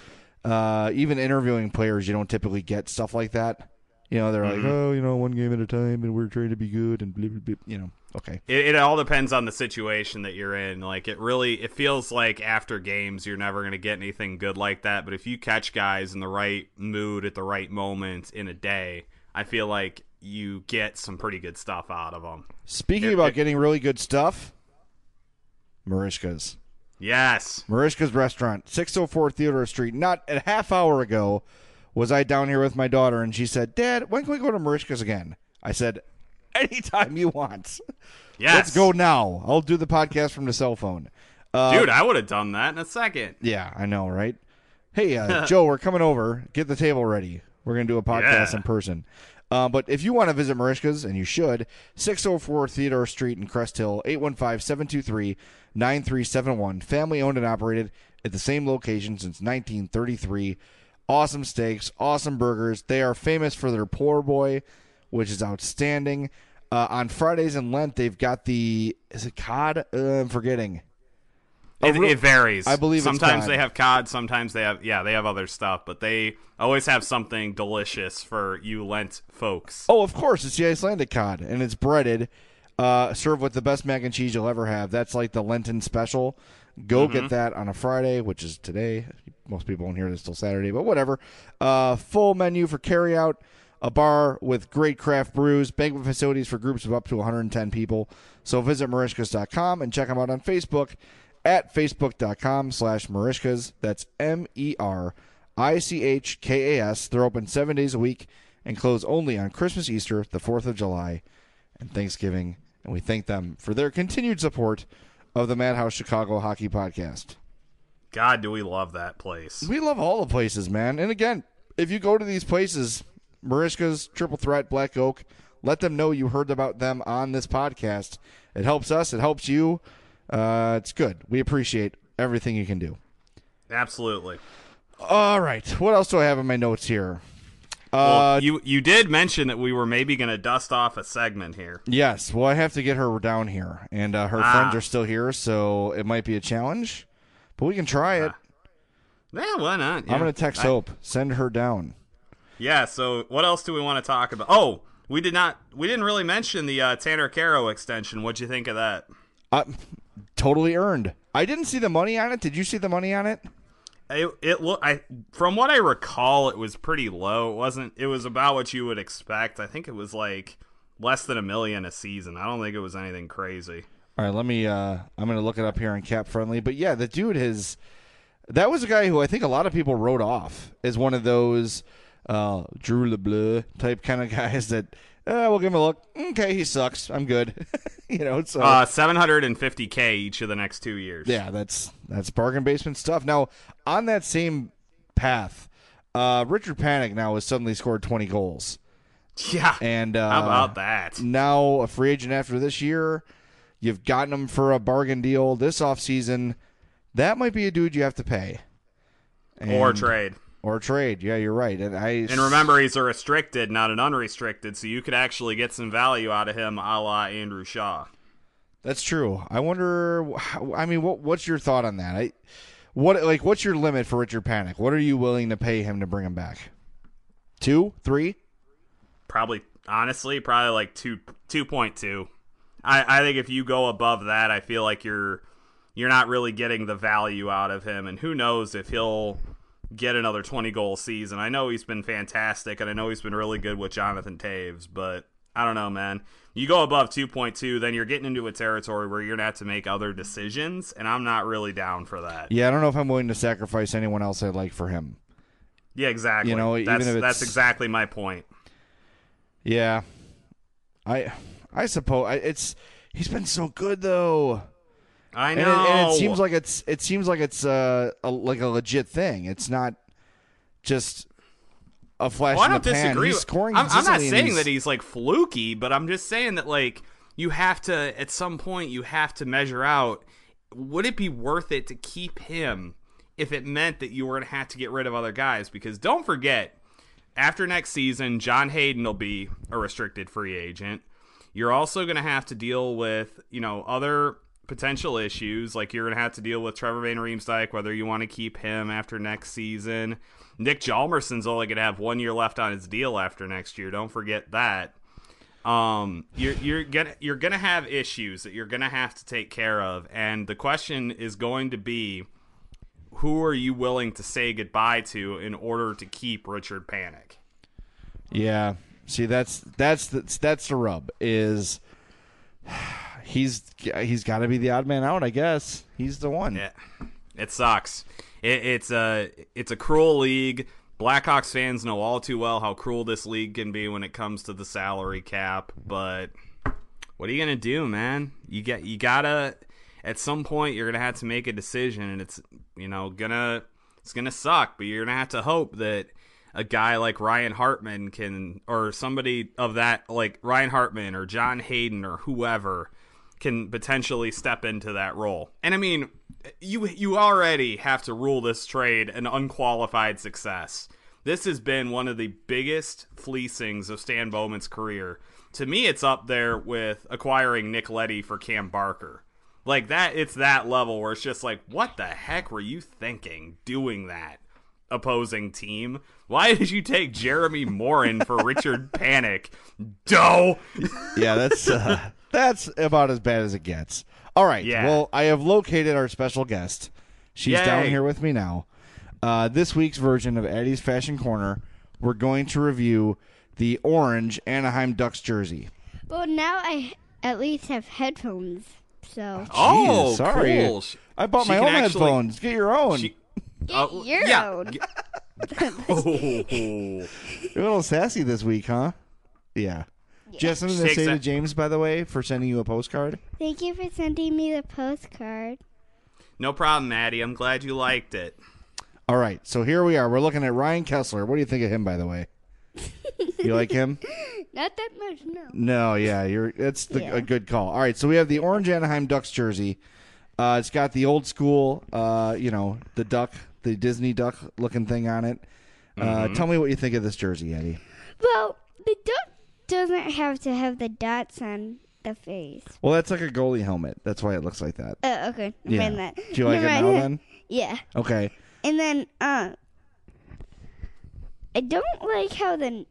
even interviewing players, you don't typically get stuff like that. You know, they're like, oh, you know, one game at a time, and we're trying to be good, and blah, blah, blah, you know. Okay. It all depends on the situation that you're in. Like, it feels like after games you're never going to get anything good like that. But if you catch guys in the right mood at the right moment in a day, I feel like you get some pretty good stuff out of them. Speaking about getting really good stuff, Merichka's. Yes. Merichka's Restaurant, 604 Theodore Street. Not a half hour ago was I down here with my daughter, and she said, Dad, when can we go to Merichka's again? I said, anytime you want. Yes. Let's go now. I'll do the podcast from the cell phone. Dude, I would have done that in a second. Yeah, I know, right? Hey, Joe, we're coming over. Get the table ready. We're going to do a podcast in person. But if you want to visit Merichka's, and you should, 604 Theodore Street in Crest Hill, 815-723-9371. Family-owned and operated at the same location since 1933. Awesome steaks, awesome burgers. They are famous for their poor boy, which is outstanding. On Fridays in Lent, they've got is it cod? I'm forgetting. It varies. I believe sometimes it's cod. they have cod, sometimes they have other stuff, but they always have something delicious for you Lent folks. Oh, of course, it's the Icelandic cod, and it's breaded, served with the best mac and cheese you'll ever have. That's like the Lenten special. Go get that on a Friday, which is today. Most people won't hear this till Saturday, but whatever. Full menu for carryout, a bar with great craft brews, banquet facilities for groups of up to 110 people. So visit Merichkas.com and check them out on Facebook at facebook.com/Merichkas. That's Merichkas. They're open 7 days a week and close only on Christmas, Easter, the 4th of July, and Thanksgiving. And we thank them for their continued support of the Madhouse Chicago Hockey Podcast. God, do we love that place. We love all the places, man. And again, if you go to these places, Merichka's, Triple Threat, Black Oak, let them know you heard about them on this podcast. It helps us. It helps you. It's good. We appreciate everything you can do. Absolutely. All right. What else do I have in my notes here? Well, you did mention that we were maybe going to dust off a segment here. Yes. Well, I have to get her down here, and her friends are still here, so it might be a challenge, but we can try it. Yeah, why not? Yeah. I'm going to text Hope. Send her down. Yeah, so what else do we want to talk about? Oh, we didn't really mention the Tanner Caro extension. What'd you think of that? Totally earned. I didn't see the money on it. Did you see the money on it? From what I recall, it was pretty low. It was about what you would expect. I think it was like less than $1 million a season. I don't think it was anything crazy. All right, let me. I'm going to look it up here on Cap Friendly. But yeah, the dude that was a guy who I think a lot of people wrote off as one of those Drew LeBleu type kind of guys that we'll give him a look. Okay, he sucks. I'm good. So $750K each of the next 2 years. Yeah, that's bargain basement stuff. Now, on that same path, Richard Panik now has suddenly scored 20 goals. Yeah, and how about that? Now a free agent after this year. You've gotten him for a bargain deal this offseason. That might be a dude you have to pay. Or trade. Or trade. Yeah, you're right. And remember, he's a restricted, not an unrestricted, so you could actually get some value out of him a la Andrew Shaw. That's true. I wonder, what's your thought on that? What's your limit for Richard Panik? What are you willing to pay him to bring him back? 2, 3? Probably like 2.2. I think if you go above that, I feel like you're not really getting the value out of him, and who knows if he'll get another 20-goal season. I know he's been fantastic, and I know he's been really good with Jonathan Toews, but I don't know, man. You go above 2.2, then you're getting into a territory where you're going to have to make other decisions, and I'm not really down for that. Yeah, I don't know if I'm willing to sacrifice anyone else I like for him. Yeah, exactly. That's exactly my point. Yeah. I suppose he's been so good though. I know. And it seems like it's like a legit thing. It's not just a flash in the pan. Disagree. He's scoring I'm not consistently, saying that he's like fluky, but I'm just saying that like you have to at some point you have to measure out, would it be worth it to keep him if it meant that you were going to have to get rid of other guys? Because don't forget, after next season, John Hayden will be a restricted free agent. You're also going to have to deal with, other potential issues. Like, you're going to have to deal with Trevor Van Riemsdyk, whether you want to keep him after next season. Nick Hjalmarsson's only going to have 1 year left on his deal after next year. Don't forget that. You're gonna have issues that you're gonna have to take care of, and the question is going to be, who are you willing to say goodbye to in order to keep Richard Panik? Yeah. See, that's the rub. Is he's got to be the odd man out? I guess he's the one. Yeah, it sucks. It's a cruel league. Blackhawks fans know all too well how cruel this league can be when it comes to the salary cap, but what are you gonna do, man? You gotta at some point you're gonna have to make a decision, and it's gonna suck, but you're gonna have to hope that a guy like Ryan Hartman can, or somebody of that, like Ryan Hartman or John Hayden or whoever, can potentially step into that role. And I mean, you already have to rule this trade an unqualified success. This has been one of the biggest fleecings of Stan Bowman's career. To me, it's up there with acquiring Nick Leddy for Cam Barker. Like that, it's that level where it's just like, what the heck were you thinking doing that, opposing team? Why did you take Jeremy Morin for Richard Panik? Doe! Yeah, that's about as bad as it gets. All right. Yeah. Well, I have located our special guest. She's Yay. down here with me now. This week's version of Addie's Fashion Corner, we're going to review the orange Anaheim Ducks jersey. Well, now I at least have headphones, so. Oh, sorry. cool. I bought my own headphones. Get your own. Get your own. You're a little sassy this week, huh? Yeah. Do you have something to say to James, by the way, for sending you a postcard? Thank you for sending me the postcard. No problem, Maddie. I'm glad you liked it. All right, so here we are. We're looking at Ryan Kessler. What do you think of him, by the way? You like him? Not that much, no. No, yeah, that's a good call. All right, so we have the orange Anaheim Ducks jersey. It's got the old school, the duck, the Disney duck looking thing on it. Tell me what you think of this jersey, Eddie. Well, the duck doesn't have to have the dots on the face. Well, that's like a goalie helmet. That's why it looks like that. Oh, okay. Yeah. Mind that. Do you like it now then? Yeah. Okay. And then, I don't like how the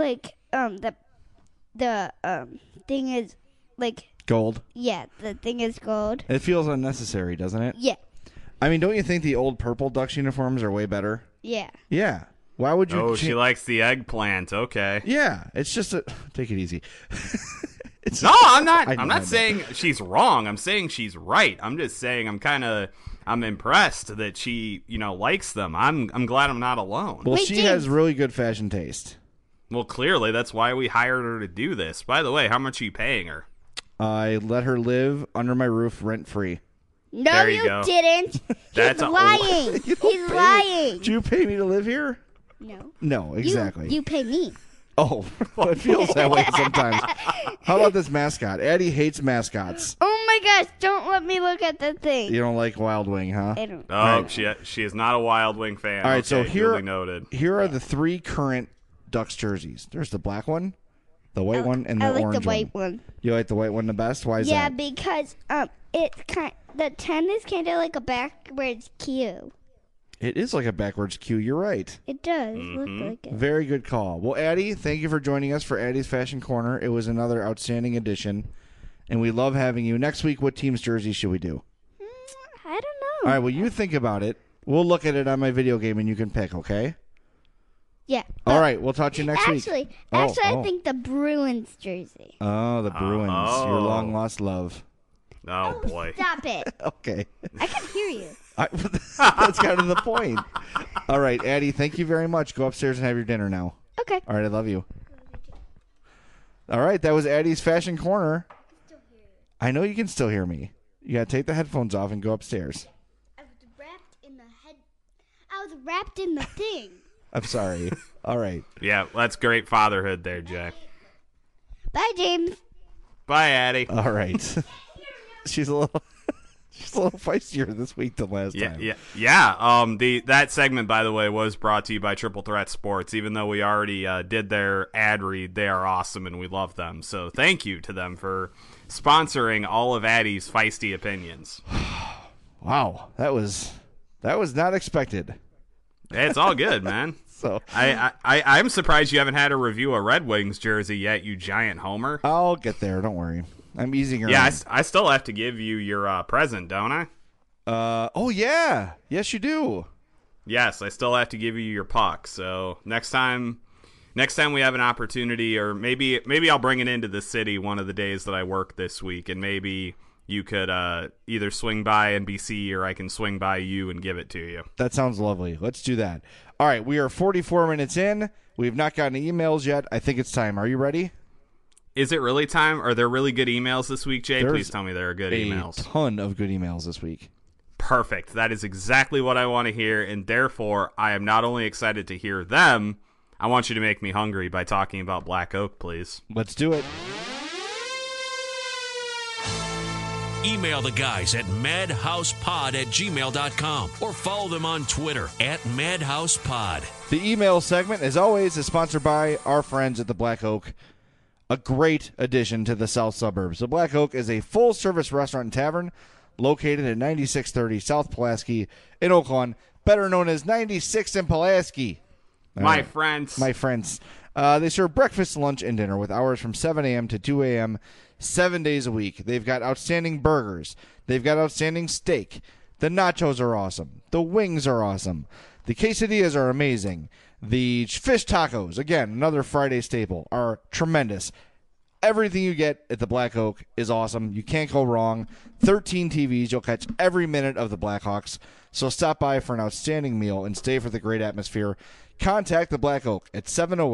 thing is, like... Gold? Yeah, the thing is gold. It feels unnecessary, doesn't it? Yeah. I mean, don't you think the old purple Ducks uniforms are way better? Yeah. Yeah. Why would you... Oh, she likes the eggplant. Okay. Yeah. It's just a... Take it easy. No, I'm not. I know. I'm not saying she's wrong. I'm saying she's right. I'm just saying I'm impressed that she, likes them. I'm glad I'm not alone. Well, Wait, she James. has really good fashion taste. Well, clearly that's why we hired her to do this. By the way, how much are you paying her? I let her live under my roof rent-free. No, There you you go. didn't. That's He's a- lying. He's lying. Did you pay me to live here? No. No, exactly. You pay me. Oh, it feels that way sometimes. How about this mascot? Addie hates mascots. Oh my gosh, don't let me look at the thing. You don't like Wild Wing, huh? I don't. Oh, she is not a Wild Wing fan. All right, so Okay, here, duly noted. here are the three current Ducks jerseys. There's the black one, the white one, and the I like orange the white one. You like the white one the best? Why is Yeah, that? because it's the 10 is kind of like a backwards Q. It is like a backwards Q. You're right. It does look like it. Very good call. Well, Addie, thank you for joining us for Addie's Fashion Corner. It was another outstanding edition, and we love having you. Next week, what team's jersey should we do? I don't know. All right, well, you think about it. We'll look at it on my video game, and you can pick, okay? Yeah. All right, we'll talk to you next week. Actually, Oh. I think the Bruins jersey. Oh, the Bruins. Your Oh. long-lost love. Oh boy. Stop it. Okay. I can hear you. That's kind of the point. All right, Addie, thank you very much. Go upstairs and have your dinner now. Okay. All right, I love you. All right, that was Addie's Fashion Corner. I know you can still hear me. You got to take the headphones off and go upstairs. I was wrapped in the thing. I'm sorry. All right. Yeah, that's great fatherhood there, Jay. Bye, James. Bye, Addie. All right. She's a little feistier this week than last time. Yeah. That segment, by the way, was brought to you by Triple Threat Sports. Even though we already did their ad read, they are awesome and we love them. So thank you to them for sponsoring all of Addie's feisty opinions. Wow, that was not expected. It's all good, man. So I'm surprised you haven't had a review of Red Wings jersey yet, you giant homer. I'll get there. Don't worry. I'm easing her. Yeah, I still have to give you your present, don't I? Oh yeah, yes you do. Yes, I still have to give you your puck. So next time we have an opportunity, or maybe I'll bring it into the city one of the days that I work this week, and maybe you could either swing by NBC or I can swing by you and give it to you. That sounds lovely. Let's do that. All right, we are 44 minutes in. We have not gotten emails yet. I think it's time. Are you ready? Is it really time? Are there really good emails this week, Jay? There's Please tell me there are good emails. A ton of good emails this week. Perfect. That is exactly what I want to hear, and therefore I am not only excited to hear them, I want you to make me hungry by talking about Black Oak, please. Let's do it. Email the guys at madhousepod@gmail.com or follow them on Twitter @madhousepod. The email segment, as always, is sponsored by our friends at the Black Oak, a great addition to the south suburbs. The Black Oak is a full-service restaurant and tavern located at 9630 South Pulaski in Oak Lawn, better known as 96 in Pulaski. My friends. They serve breakfast, lunch, and dinner with hours from 7 a.m. to 2 a.m. 7 days a week. They've got outstanding burgers. They've got outstanding steak. The nachos are awesome. The wings are awesome. The quesadillas are amazing. The fish tacos, again, another Friday staple, are tremendous. Everything you get at the Black Oak is awesome. You can't go wrong. 13 TVs. You'll catch every minute of the Blackhawks. So stop by for an outstanding meal and stay for the great atmosphere. Contact the Black Oak at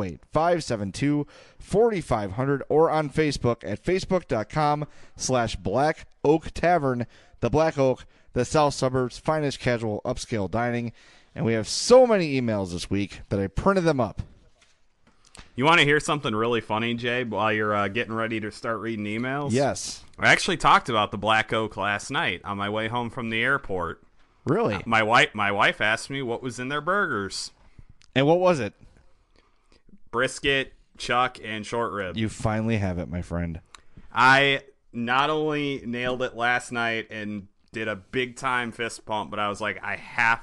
708-572-4500 or on Facebook at facebook.com/Black Oak Tavern. The Black Oak, the South Suburbs' finest casual upscale dining. And we have so many emails this week that I printed them up. You want to hear something really funny, Jay, while you're getting ready to start reading emails? Yes. I actually talked about the Black Oak last night on my way home from the airport. Really? My wife asked me what was in their burgers. And what was it? Brisket, chuck, and short rib. You finally have it, my friend. I not only nailed it last night and did a big-time fist pump, but I was like, I have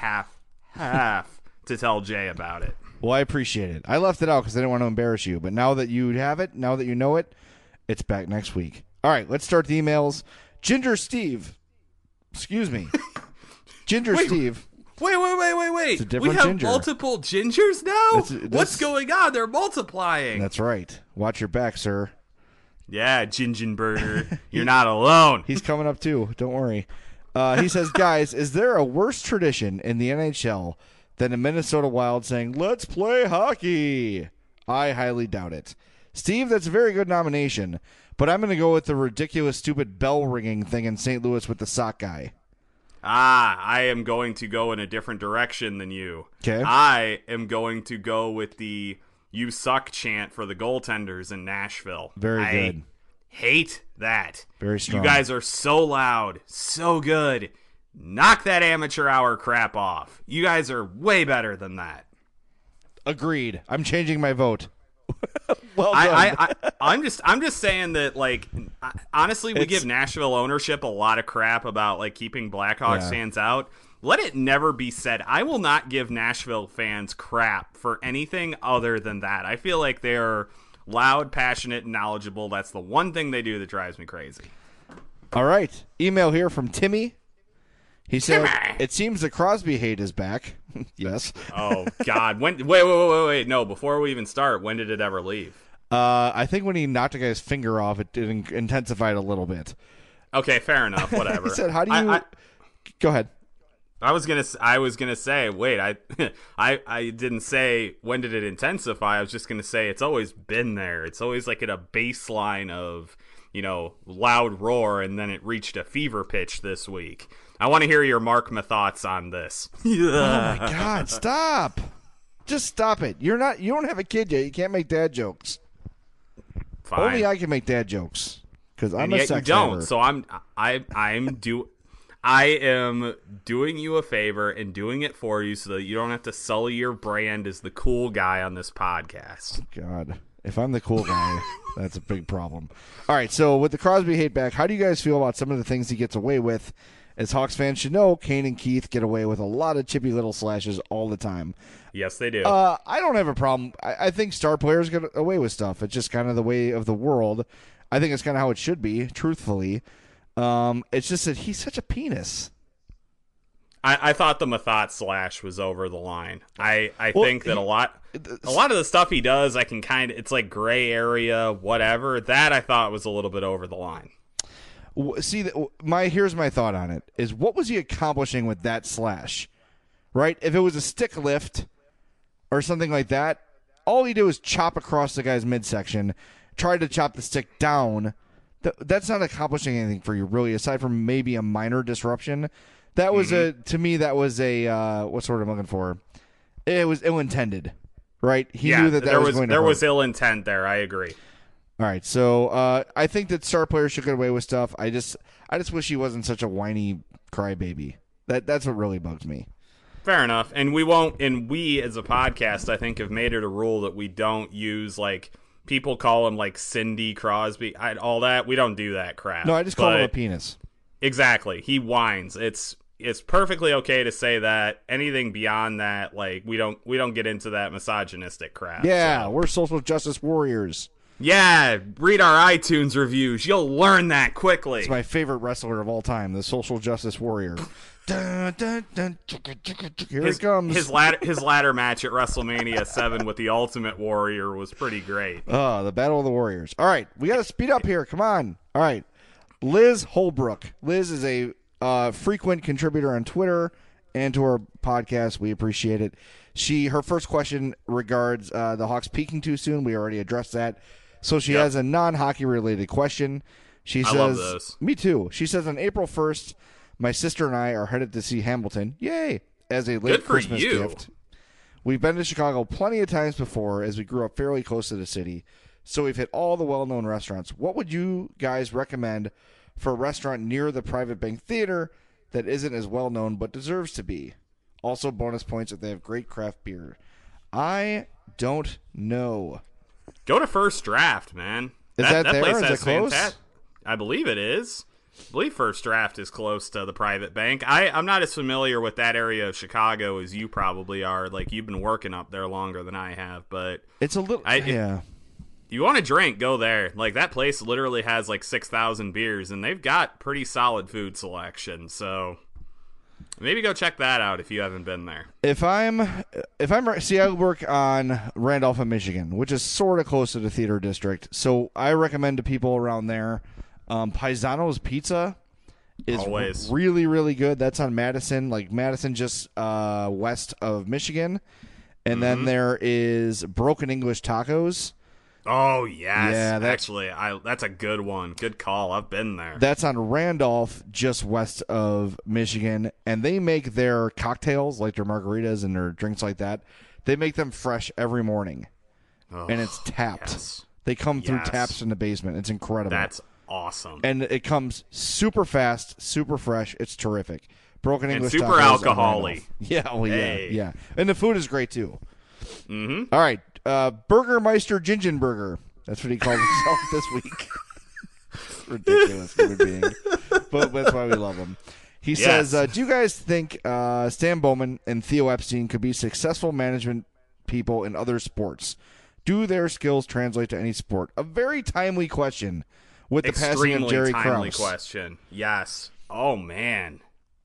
to tell Jay about it. Well, I appreciate it. I left it out because I didn't want to embarrass you. But now that you have it, now that you know it, it's back next week. All right, let's start the emails. Ginger Steve. Excuse me. Ginger Steve. Wait. It's a different we have ginger. multiple gingers now? What's What's going on? They're multiplying. That's right. Watch your back, sir. Yeah, Gingenberger. You're not alone. He's coming up, too. Don't worry. He says, guys, is there a worse tradition in the NHL than a Minnesota Wild saying, let's play hockey? I highly doubt it. Steve, that's a very good nomination, but I'm going to go with the ridiculous, stupid bell-ringing thing in St. Louis with the sock guy. I am going to go in a different direction than you. Okay. I am going to go with the "you suck" chant for the goaltenders in Nashville. Very good. Hate that. Very strong. You guys are so loud, so good. Knock that amateur hour crap off. You guys are way better than that. Agreed. I'm changing my vote. Well done. I'm just saying that, like, honestly, we give Nashville ownership a lot of crap about, like, keeping Blackhawks fans out. Let it never be said. I will not give Nashville fans crap for anything other than that. I feel like they're loud, passionate, and knowledgeable. That's the one thing they do that drives me crazy. All right. Email here from Timmy. He said, it seems the Crosby hate is back. Yes. Oh, God. Wait. No, before we even start, when did it ever leave? I think when he knocked a guy's finger off, it intensified a little bit. Okay, fair enough. Whatever. He said, how do you... Go ahead. I was gonna say, wait, I didn't say when did it intensify. I was just gonna say it's always been there. It's always like at a baseline of, loud roar, and then it reached a fever pitch this week. I want to hear your Markma thoughts on this. Oh my God! Stop! Just stop it. You don't have a kid yet. You can't make dad jokes. Fine. Only I can make dad jokes because I'm and a yet sex you don't. haver. So I am doing you a favor and doing it for you so that you don't have to sully your brand as the cool guy on this podcast. God. If I'm the cool guy, that's a big problem. All right, so with the Crosby hate back, how do you guys feel about some of the things he gets away with? As Hawks fans should know, Kane and Keith get away with a lot of chippy little slashes all the time. Yes, they do. I don't have a problem. I think star players get away with stuff. It's just kind of the way of the world. I think it's kind of how it should be, truthfully. It's just that he's such a penis. I thought the Mathot slash was over the line. I think that a lot of the stuff he does, I can it's like gray area, whatever. That I thought was a little bit over the line. See, here's my thought on it, is what was he accomplishing with that slash, right? If it was a stick lift or something like that, all he did was chop across the guy's midsection, tried to chop the stick down. That's not accomplishing anything for you, really, aside from maybe a minor disruption. That was to me, that was a, what's the word I'm looking for? It was ill-intended, right? He knew that was going to there hurt. was ill intent there, I agree. All right, so I think that star players should get away with stuff. I just wish he wasn't such a whiny crybaby. That's what really bugs me. Fair enough, and we won't. And we, as a podcast, I think have made it a rule that we don't use like people call him like Cindy Crosby, all that. We don't do that crap. No, I just call him a penis. Exactly, he whines. It's perfectly okay to say that. Anything beyond that, like we don't get into that misogynistic crap. Yeah, so. We're social justice warriors. Yeah, read our iTunes reviews. You'll learn that quickly. It's my favorite wrestler of all time, the social justice warrior. Dun, dun, dun, here it comes. His ladder match at WrestleMania 7 with the Ultimate Warrior was pretty great. Oh, the Battle of the Warriors. All right, we got to speed up here. Come on. All right. Liz Holbrook. Liz is a frequent contributor on Twitter and to our podcast. We appreciate it. Her first question regards the Hawks peaking too soon. We already addressed that. So she has a non-hockey related question. She says, I love those. Me too. She says, on April 1st, my sister and I are headed to see Hamilton. Yay! As a late Christmas gift. We've been to Chicago plenty of times before as we grew up fairly close to the city. So we've hit all the well-known restaurants. What would you guys recommend for a restaurant near the Private Bank Theater that isn't as well-known but deserves to be? Also, bonus points if they have great craft beer. I don't know. Go to First Draft, man. Is that there? Place Is has it close? I believe it is. I believe First Draft is close to the Private Bank. I'm not as familiar with that area of Chicago as you probably are. Like, you've been working up there longer than I have, but it's a little. You want to drink, go there. Like, that place literally has like 6,000 beers, and they've got pretty solid food selection. So maybe go check that out if you haven't been there. I work on Randolph, Michigan, which is sort of close to the theater district. So I recommend to people around there, Paisano's Pizza is always really, really good. That's on Madison, just west of Michigan. And then there is Broken English Tacos. Oh, yes. Yeah, actually, that's a good one. Good call. I've been there. That's on Randolph, just west of Michigan. And they make their cocktails, like their margaritas and their drinks like that. They make them fresh every morning. Oh, and it's tapped. Yes. They come through taps in the basement. It's incredible. That's awesome. And it comes super fast, super fresh. It's terrific. Broken English and super tacos alcohol-y. Yeah, well, yeah. And the food is great, too. Mm-hmm. All right. Burgermeister Gingenberger. That's what he called himself this week. Ridiculous human being. But that's why we love him. He says, do you guys think Stan Bowman and Theo Epstein could be successful management people in other sports? Do their skills translate to any sport? A very timely question with the passing of Jerry Krause. Extremely timely question. Yes. Oh, man.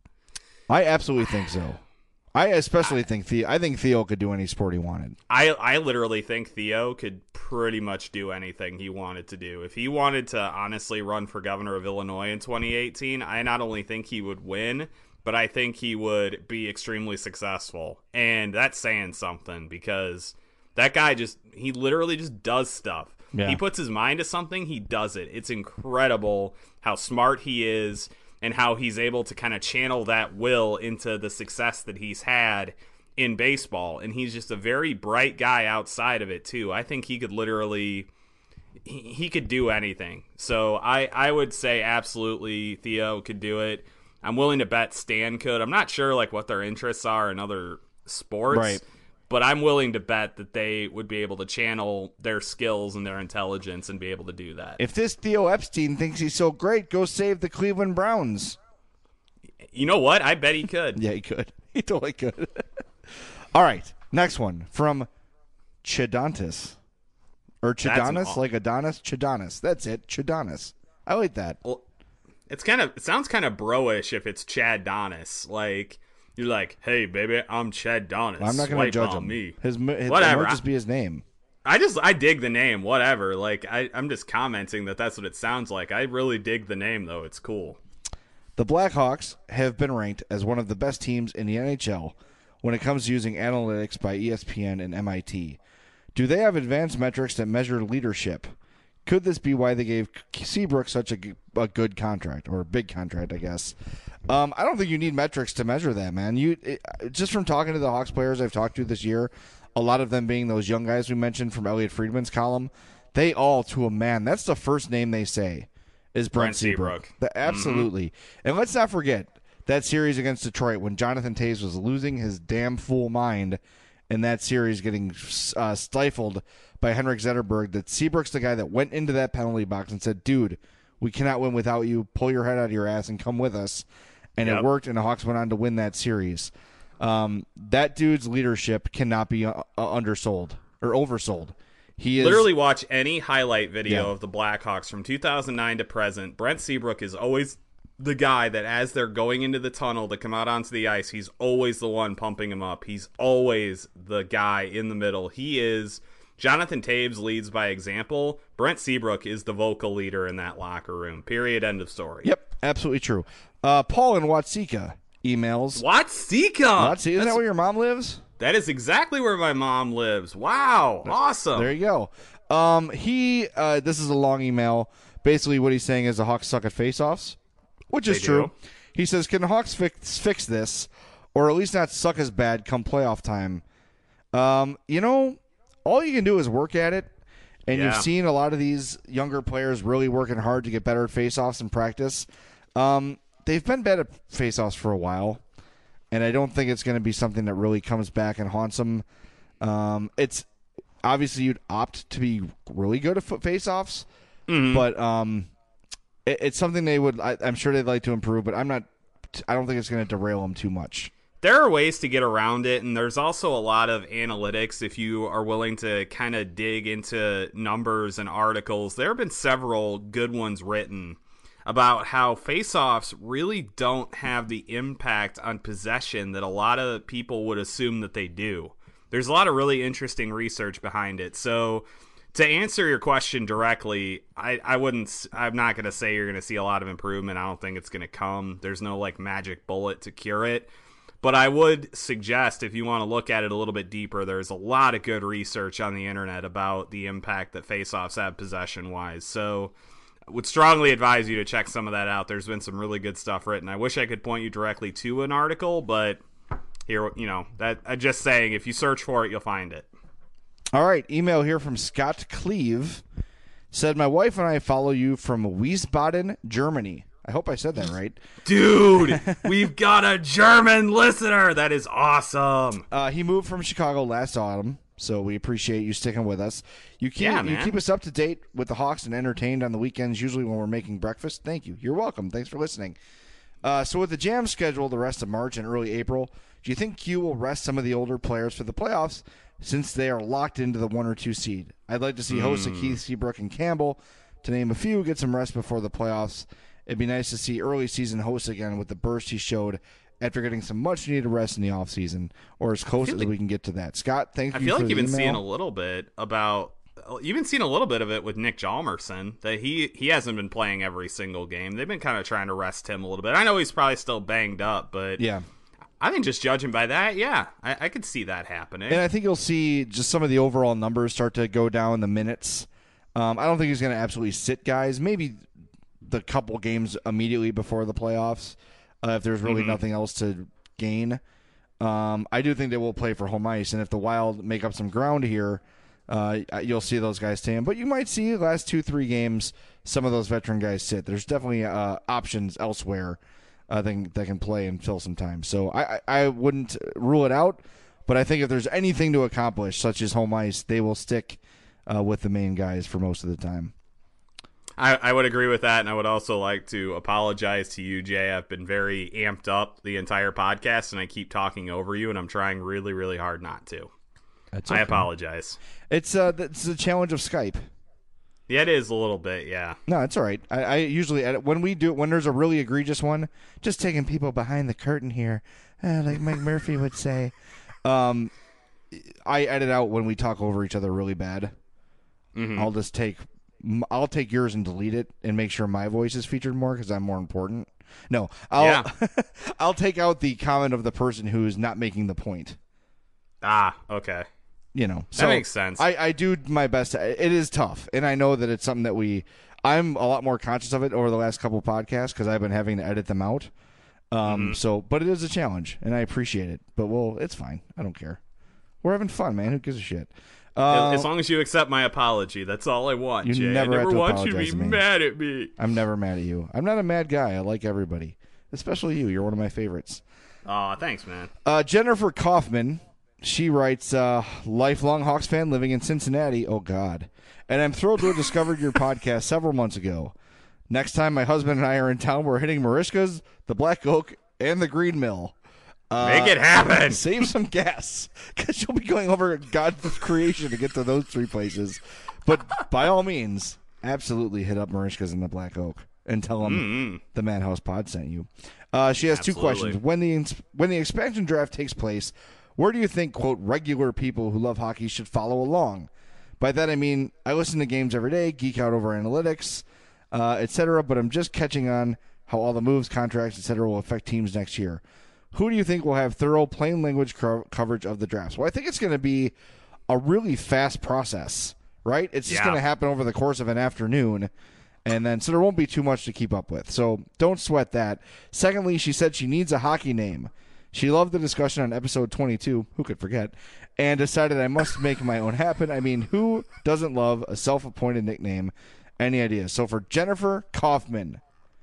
I absolutely think so. I especially think Theo could do any sport he wanted. I literally think Theo could pretty much do anything he wanted to do. If he wanted to honestly run for governor of Illinois in 2018, I not only think he would win, but I think he would be extremely successful. And that's saying something because that guy he literally just does stuff. Yeah. He puts his mind to something, he does it. It's incredible how smart he is and how he's able to kind of channel that will into the success that he's had in baseball. And he's just a very bright guy outside of it, too. I think he could literally he could do anything. So I would say absolutely Theo could do it. I'm willing to bet Stan could. I'm not sure what their interests are in other sports. Right. but I'm willing to bet that they would be able to channel their skills and their intelligence and be able to do that. If this Theo Epstein thinks he's so great, go save the Cleveland Browns. You know what? I bet he could. Yeah, he could. He totally could. All right, next one from Chidantis. Or Chidanis, like Adonis? Chidanis. That's it, Chidanis. I like that. Well, it sounds kind of bro-ish if it's Chad Donis. Like, you're like, hey, baby, I'm Chad Donis. Well, I'm not going to judge him. Me. His Whatever. It might just be his name. I dig the name, whatever. Like, I'm just commenting that's what it sounds like. I really dig the name, though. It's cool. The Blackhawks have been ranked as one of the best teams in the NHL when it comes to using analytics by ESPN and MIT. Do they have advanced metrics that measure leadership? Could this be why they gave Seabrook such a good contract, or a big contract, I guess? I don't think you need metrics to measure that, man. Just from talking to the Hawks players I've talked to this year, a lot of them being those young guys we mentioned from Elliot Friedman's column, they all, to a man, that's the first name they say is Brent Seabrook. Absolutely. Mm-hmm. And let's not forget that series against Detroit when Jonathan Toews was losing his damn fool mind in that series, getting stifled by Henrik Zetterberg, that Seabrook's the guy that went into that penalty box and said, dude, we cannot win without you. Pull your head out of your ass and come with us. And It worked, and the Hawks went on to win that series. That dude's leadership cannot be undersold or oversold. He is literally watch any highlight video of the Blackhawks from 2009 to present. Brent Seabrook is always the guy that as they're going into the tunnel to come out onto the ice, he's always the one pumping him up. He's always the guy in the middle. He is Jonathan Toews leads by example. Brent Seabrook is the vocal leader in that locker room. Period. End of story. Yep, absolutely true. Paul in Watseka emails. Watseka? Isn't that where your mom lives? That is exactly where my mom lives. Wow. Awesome. There you go. This is a long email. Basically what he's saying is the Hawks suck at faceoffs, which is true. He says, can the Hawks fix this, or at least not suck as bad come playoff time? All you can do is work at it, and you've seen a lot of these younger players really working hard to get better at faceoffs in practice. They've been bad at faceoffs for a while, and I don't think it's going to be something that really comes back and haunts them. It's obviously you'd opt to be really good at faceoffs, but it's something they would. I'm sure they'd like to improve, but I don't think it's going to derail them too much. There are ways to get around it, and there's also a lot of analytics if you are willing to kind of dig into numbers and articles. There have been several good ones written about how faceoffs really don't have the impact on possession that a lot of people would assume that they do. There's a lot of really interesting research behind it. So to answer your question directly, I'm not going to say you're going to see a lot of improvement. I don't think it's going to come. There's no like magic bullet to cure it. But I would suggest, if you want to look at it a little bit deeper, there's a lot of good research on the internet about the impact that faceoffs have possession-wise. So I would strongly advise you to check some of that out. There's been some really good stuff written. I wish I could point you directly to an article, but here, I'm just saying, if you search for it, you'll find it. All right, email here from Scott Cleve. Said, my wife and I follow you from Wiesbaden, Germany. I hope I said that right. Dude, we've got a German listener. That is awesome. He moved from Chicago last autumn, so we appreciate you sticking with us. You keep us up to date with the Hawks and entertained on the weekends, usually when we're making breakfast. Thank you. You're welcome. Thanks for listening. So with the Jam schedule the rest of March and early April, do you think Q will rest some of the older players for the playoffs since they are locked into the 1 or 2 seed? I'd like to see Hossa, Keith, Seabrook, and Campbell, to name a few, get some rest before the playoffs. It'd be nice to see early season Hossa again with the burst he showed after getting some much-needed rest in the offseason, or as close as we can get to that. Scott, thank you for the email. I feel like you've been seeing a little bit of it with Nick Hjalmarsson, that he hasn't been playing every single game. They've been kind of trying to rest him a little bit. I know he's probably still banged up, but yeah, I think just judging by that, I could see that happening. And I think you'll see just some of the overall numbers start to go down, the minutes. I don't think he's going to absolutely sit guys. Maybe the couple games immediately before the playoffs, if there's really nothing else to gain. I do think they will play for home ice, and if the Wild make up some ground here, you'll see those guys stay in. But you might see the last 2-3 games some of those veteran guys sit. There's definitely options elsewhere that can play and fill some time. So I wouldn't rule it out, But I think if there's anything to accomplish, such as home ice, they will stick with the main guys for most of the time. I would agree with that, and I would also like to apologize to you, Jay. I've been very amped up the entire podcast, and I keep talking over you, and I'm trying really, really hard not to. That's okay. I apologize. It's the challenge of Skype. Yeah, it is a little bit, yeah. No, it's all right. I usually edit when there's a really egregious one, just taking people behind the curtain here, like Mike Murphy would say. I edit out when we talk over each other really bad. Mm-hmm. I'll take yours and delete it and make sure my voice is featured more because I'm more important. No, I'll take out the comment of the person who's not making the point. Ah, okay. So that makes sense. I do my best. It is tough, and I know that it's something that I'm a lot more conscious of it over the last couple of podcasts because I've been having to edit them out. But it is a challenge, and I appreciate it. But it's fine. I don't care. We're having fun, man. Who gives a shit? As long as you accept my apology, that's all I want, Jay. I never want you to be mad at me. I'm never mad at you. I'm not a mad guy. I like everybody, especially you. You're one of my favorites. Aw, thanks, man. Jennifer Kaufman, she writes, lifelong Hawks fan living in Cincinnati. Oh, God. And I'm thrilled to have discovered your podcast several months ago. Next time my husband and I are in town, we're hitting Marishka's, the Black Oak, and the Green Mill. Make it happen. Save some gas, because you'll be going over God's creation to get to those three places. But by all means, absolutely hit up Marishka's and the Black Oak and tell them the Madhouse Pod sent you. She has two questions. When the expansion draft takes place, where do you think, quote, regular people who love hockey should follow along? By that I mean, I listen to games every day, geek out over analytics, etc., but I'm just catching on how all the moves, contracts, etc. will affect teams next year. Who do you think will have thorough, plain language coverage of the drafts? Well, I think it's going to be a really fast process, right? It's just going to happen over the course of an afternoon, and then so there won't be too much to keep up with. So don't sweat that. Secondly, she said she needs a hockey name. She loved the discussion on episode 22, who could forget, and decided I must make my own happen. I mean, who doesn't love a self-appointed nickname? Any ideas? So for Jennifer Kaufman.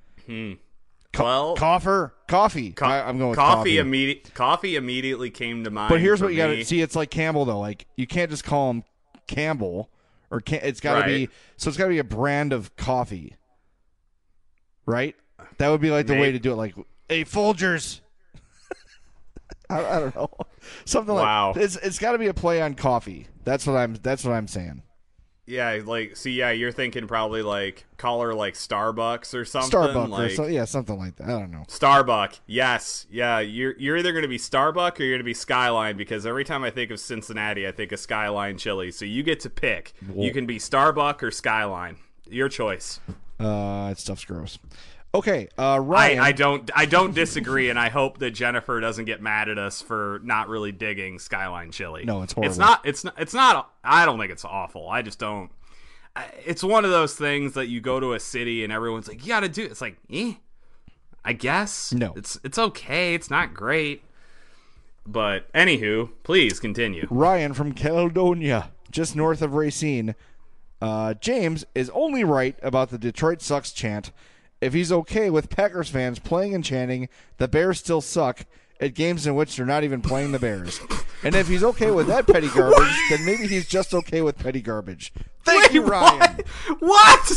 Coffee. I'm going with coffee. Coffee immediately came to mind. But here's what you got to see. It's like Campbell, though. Like, you can't just call him Campbell, or it's got to be. So it's got to be a brand of coffee, right? That would be like the way to do it. Like, hey, Folgers. I don't know. Something like it's got to be a play on coffee. That's what I'm saying. Yeah, you're thinking probably like call her like Starbucks or something. Something like that. I don't know. Starbuck, yes, yeah. You're either going to be Starbuck or you're going to be Skyline, because every time I think of Cincinnati, I think of Skyline Chili. So you get to pick. Whoa. You can be Starbuck or Skyline. Your choice. That stuff's gross. Okay, Ryan. I don't disagree, and I hope that Jennifer doesn't get mad at us for not really digging Skyline Chili. No, it's horrible. It's not. I don't think it's awful. I just don't. It's one of those things that you go to a city and everyone's like, you got to do it. It's like, I guess. No, it's okay. It's not great, but anywho, please continue. Ryan from Caledonia, just north of Racine. James is only right about the Detroit sucks chant. If he's okay with Packers fans playing and chanting, the Bears still suck at games in which they're not even playing the Bears. And if he's okay with that petty garbage, then maybe he's just okay with petty garbage. Thank you, Ryan. What?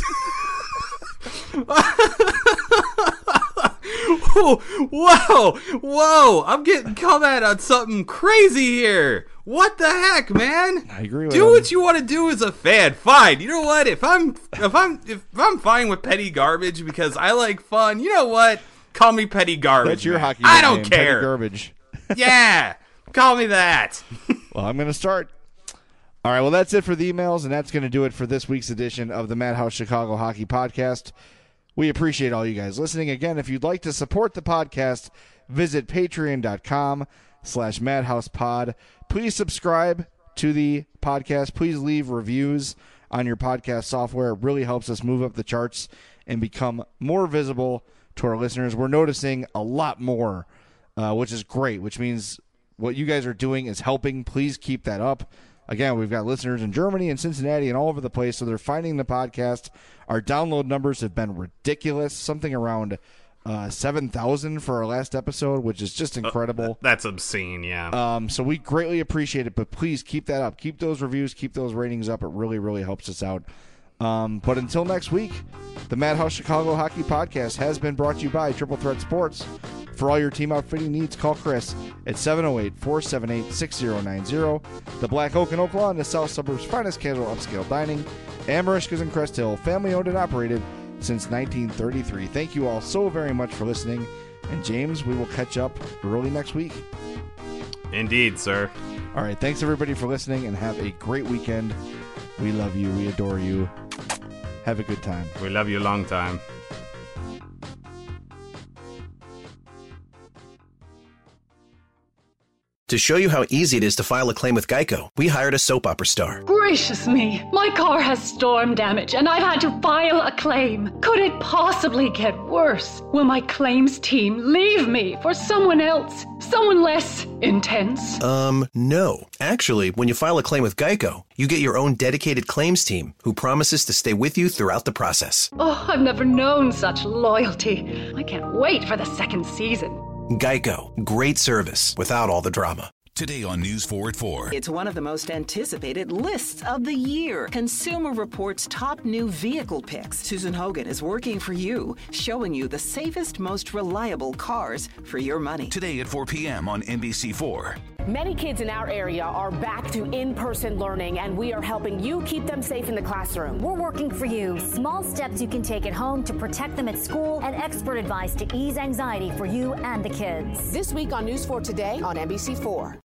Whoa, I'm getting come at on something crazy here. What the heck, man? I agree with Do what you want to do as a fan. Fine. You know what? If I'm fine with petty garbage because I like fun, you know what? Call me petty garbage. That's your hockey I don't name, care. Petty garbage. Yeah. Call me that. Well, I'm going to start. All right, well, that's it for the emails, and that's going to do it for this week's edition of the Madhouse Chicago Hockey Podcast. We appreciate all you guys listening. Again, if you'd like to support the podcast, visit patreon.com/madhousepod. Please subscribe to the podcast. Please leave reviews on your podcast software. It really helps us move up the charts and become more visible to our listeners. We're noticing a lot more, which is great, which means what you guys are doing is helping. Please keep that up. Again, we've got listeners in Germany and Cincinnati and all over the place, so they're finding the podcast. Our download numbers have been ridiculous, something around 7,000 for our last episode, which is just incredible. That's obscene, yeah. So we greatly appreciate it, but please keep that up. Keep those reviews, keep those ratings up. It really, really helps us out. But until next week, the Madhouse Chicago Hockey Podcast has been brought to you by Triple Threat Sports. For all your team outfitting needs, call Chris at 708-478-6090. The Black Oak in Oak Lawn, the South Suburbs' finest casual upscale dining. Amarishkas in Crest Hill, family owned and operated since 1933. Thank you all so very much for listening. And James, we will catch up early next week. Indeed, sir. All right, thanks everybody for listening, and have a great weekend. We love you. We adore you. Have a good time. We love you a long time. To show you how easy it is to file a claim with Geico, we hired a soap opera star. Gracious me, my car has storm damage and I've had to file a claim. Could it possibly get worse? Will my claims team leave me for someone else? Someone less intense? No. Actually, when you file a claim with Geico, you get your own dedicated claims team who promises to stay with you throughout the process. Oh, I've never known such loyalty. I can't wait for the second season. Geico. Great service without all the drama. Today on News 4 at 4. It's one of the most anticipated lists of the year. Consumer Reports' top new vehicle picks. Susan Hogan is working for you, showing you the safest, most reliable cars for your money. Today at 4 p.m. on NBC4. Many kids in our area are back to in-person learning, and we are helping you keep them safe in the classroom. We're working for you. Small steps you can take at home to protect them at school, and expert advice to ease anxiety for you and the kids. This week on News 4 Today on NBC4.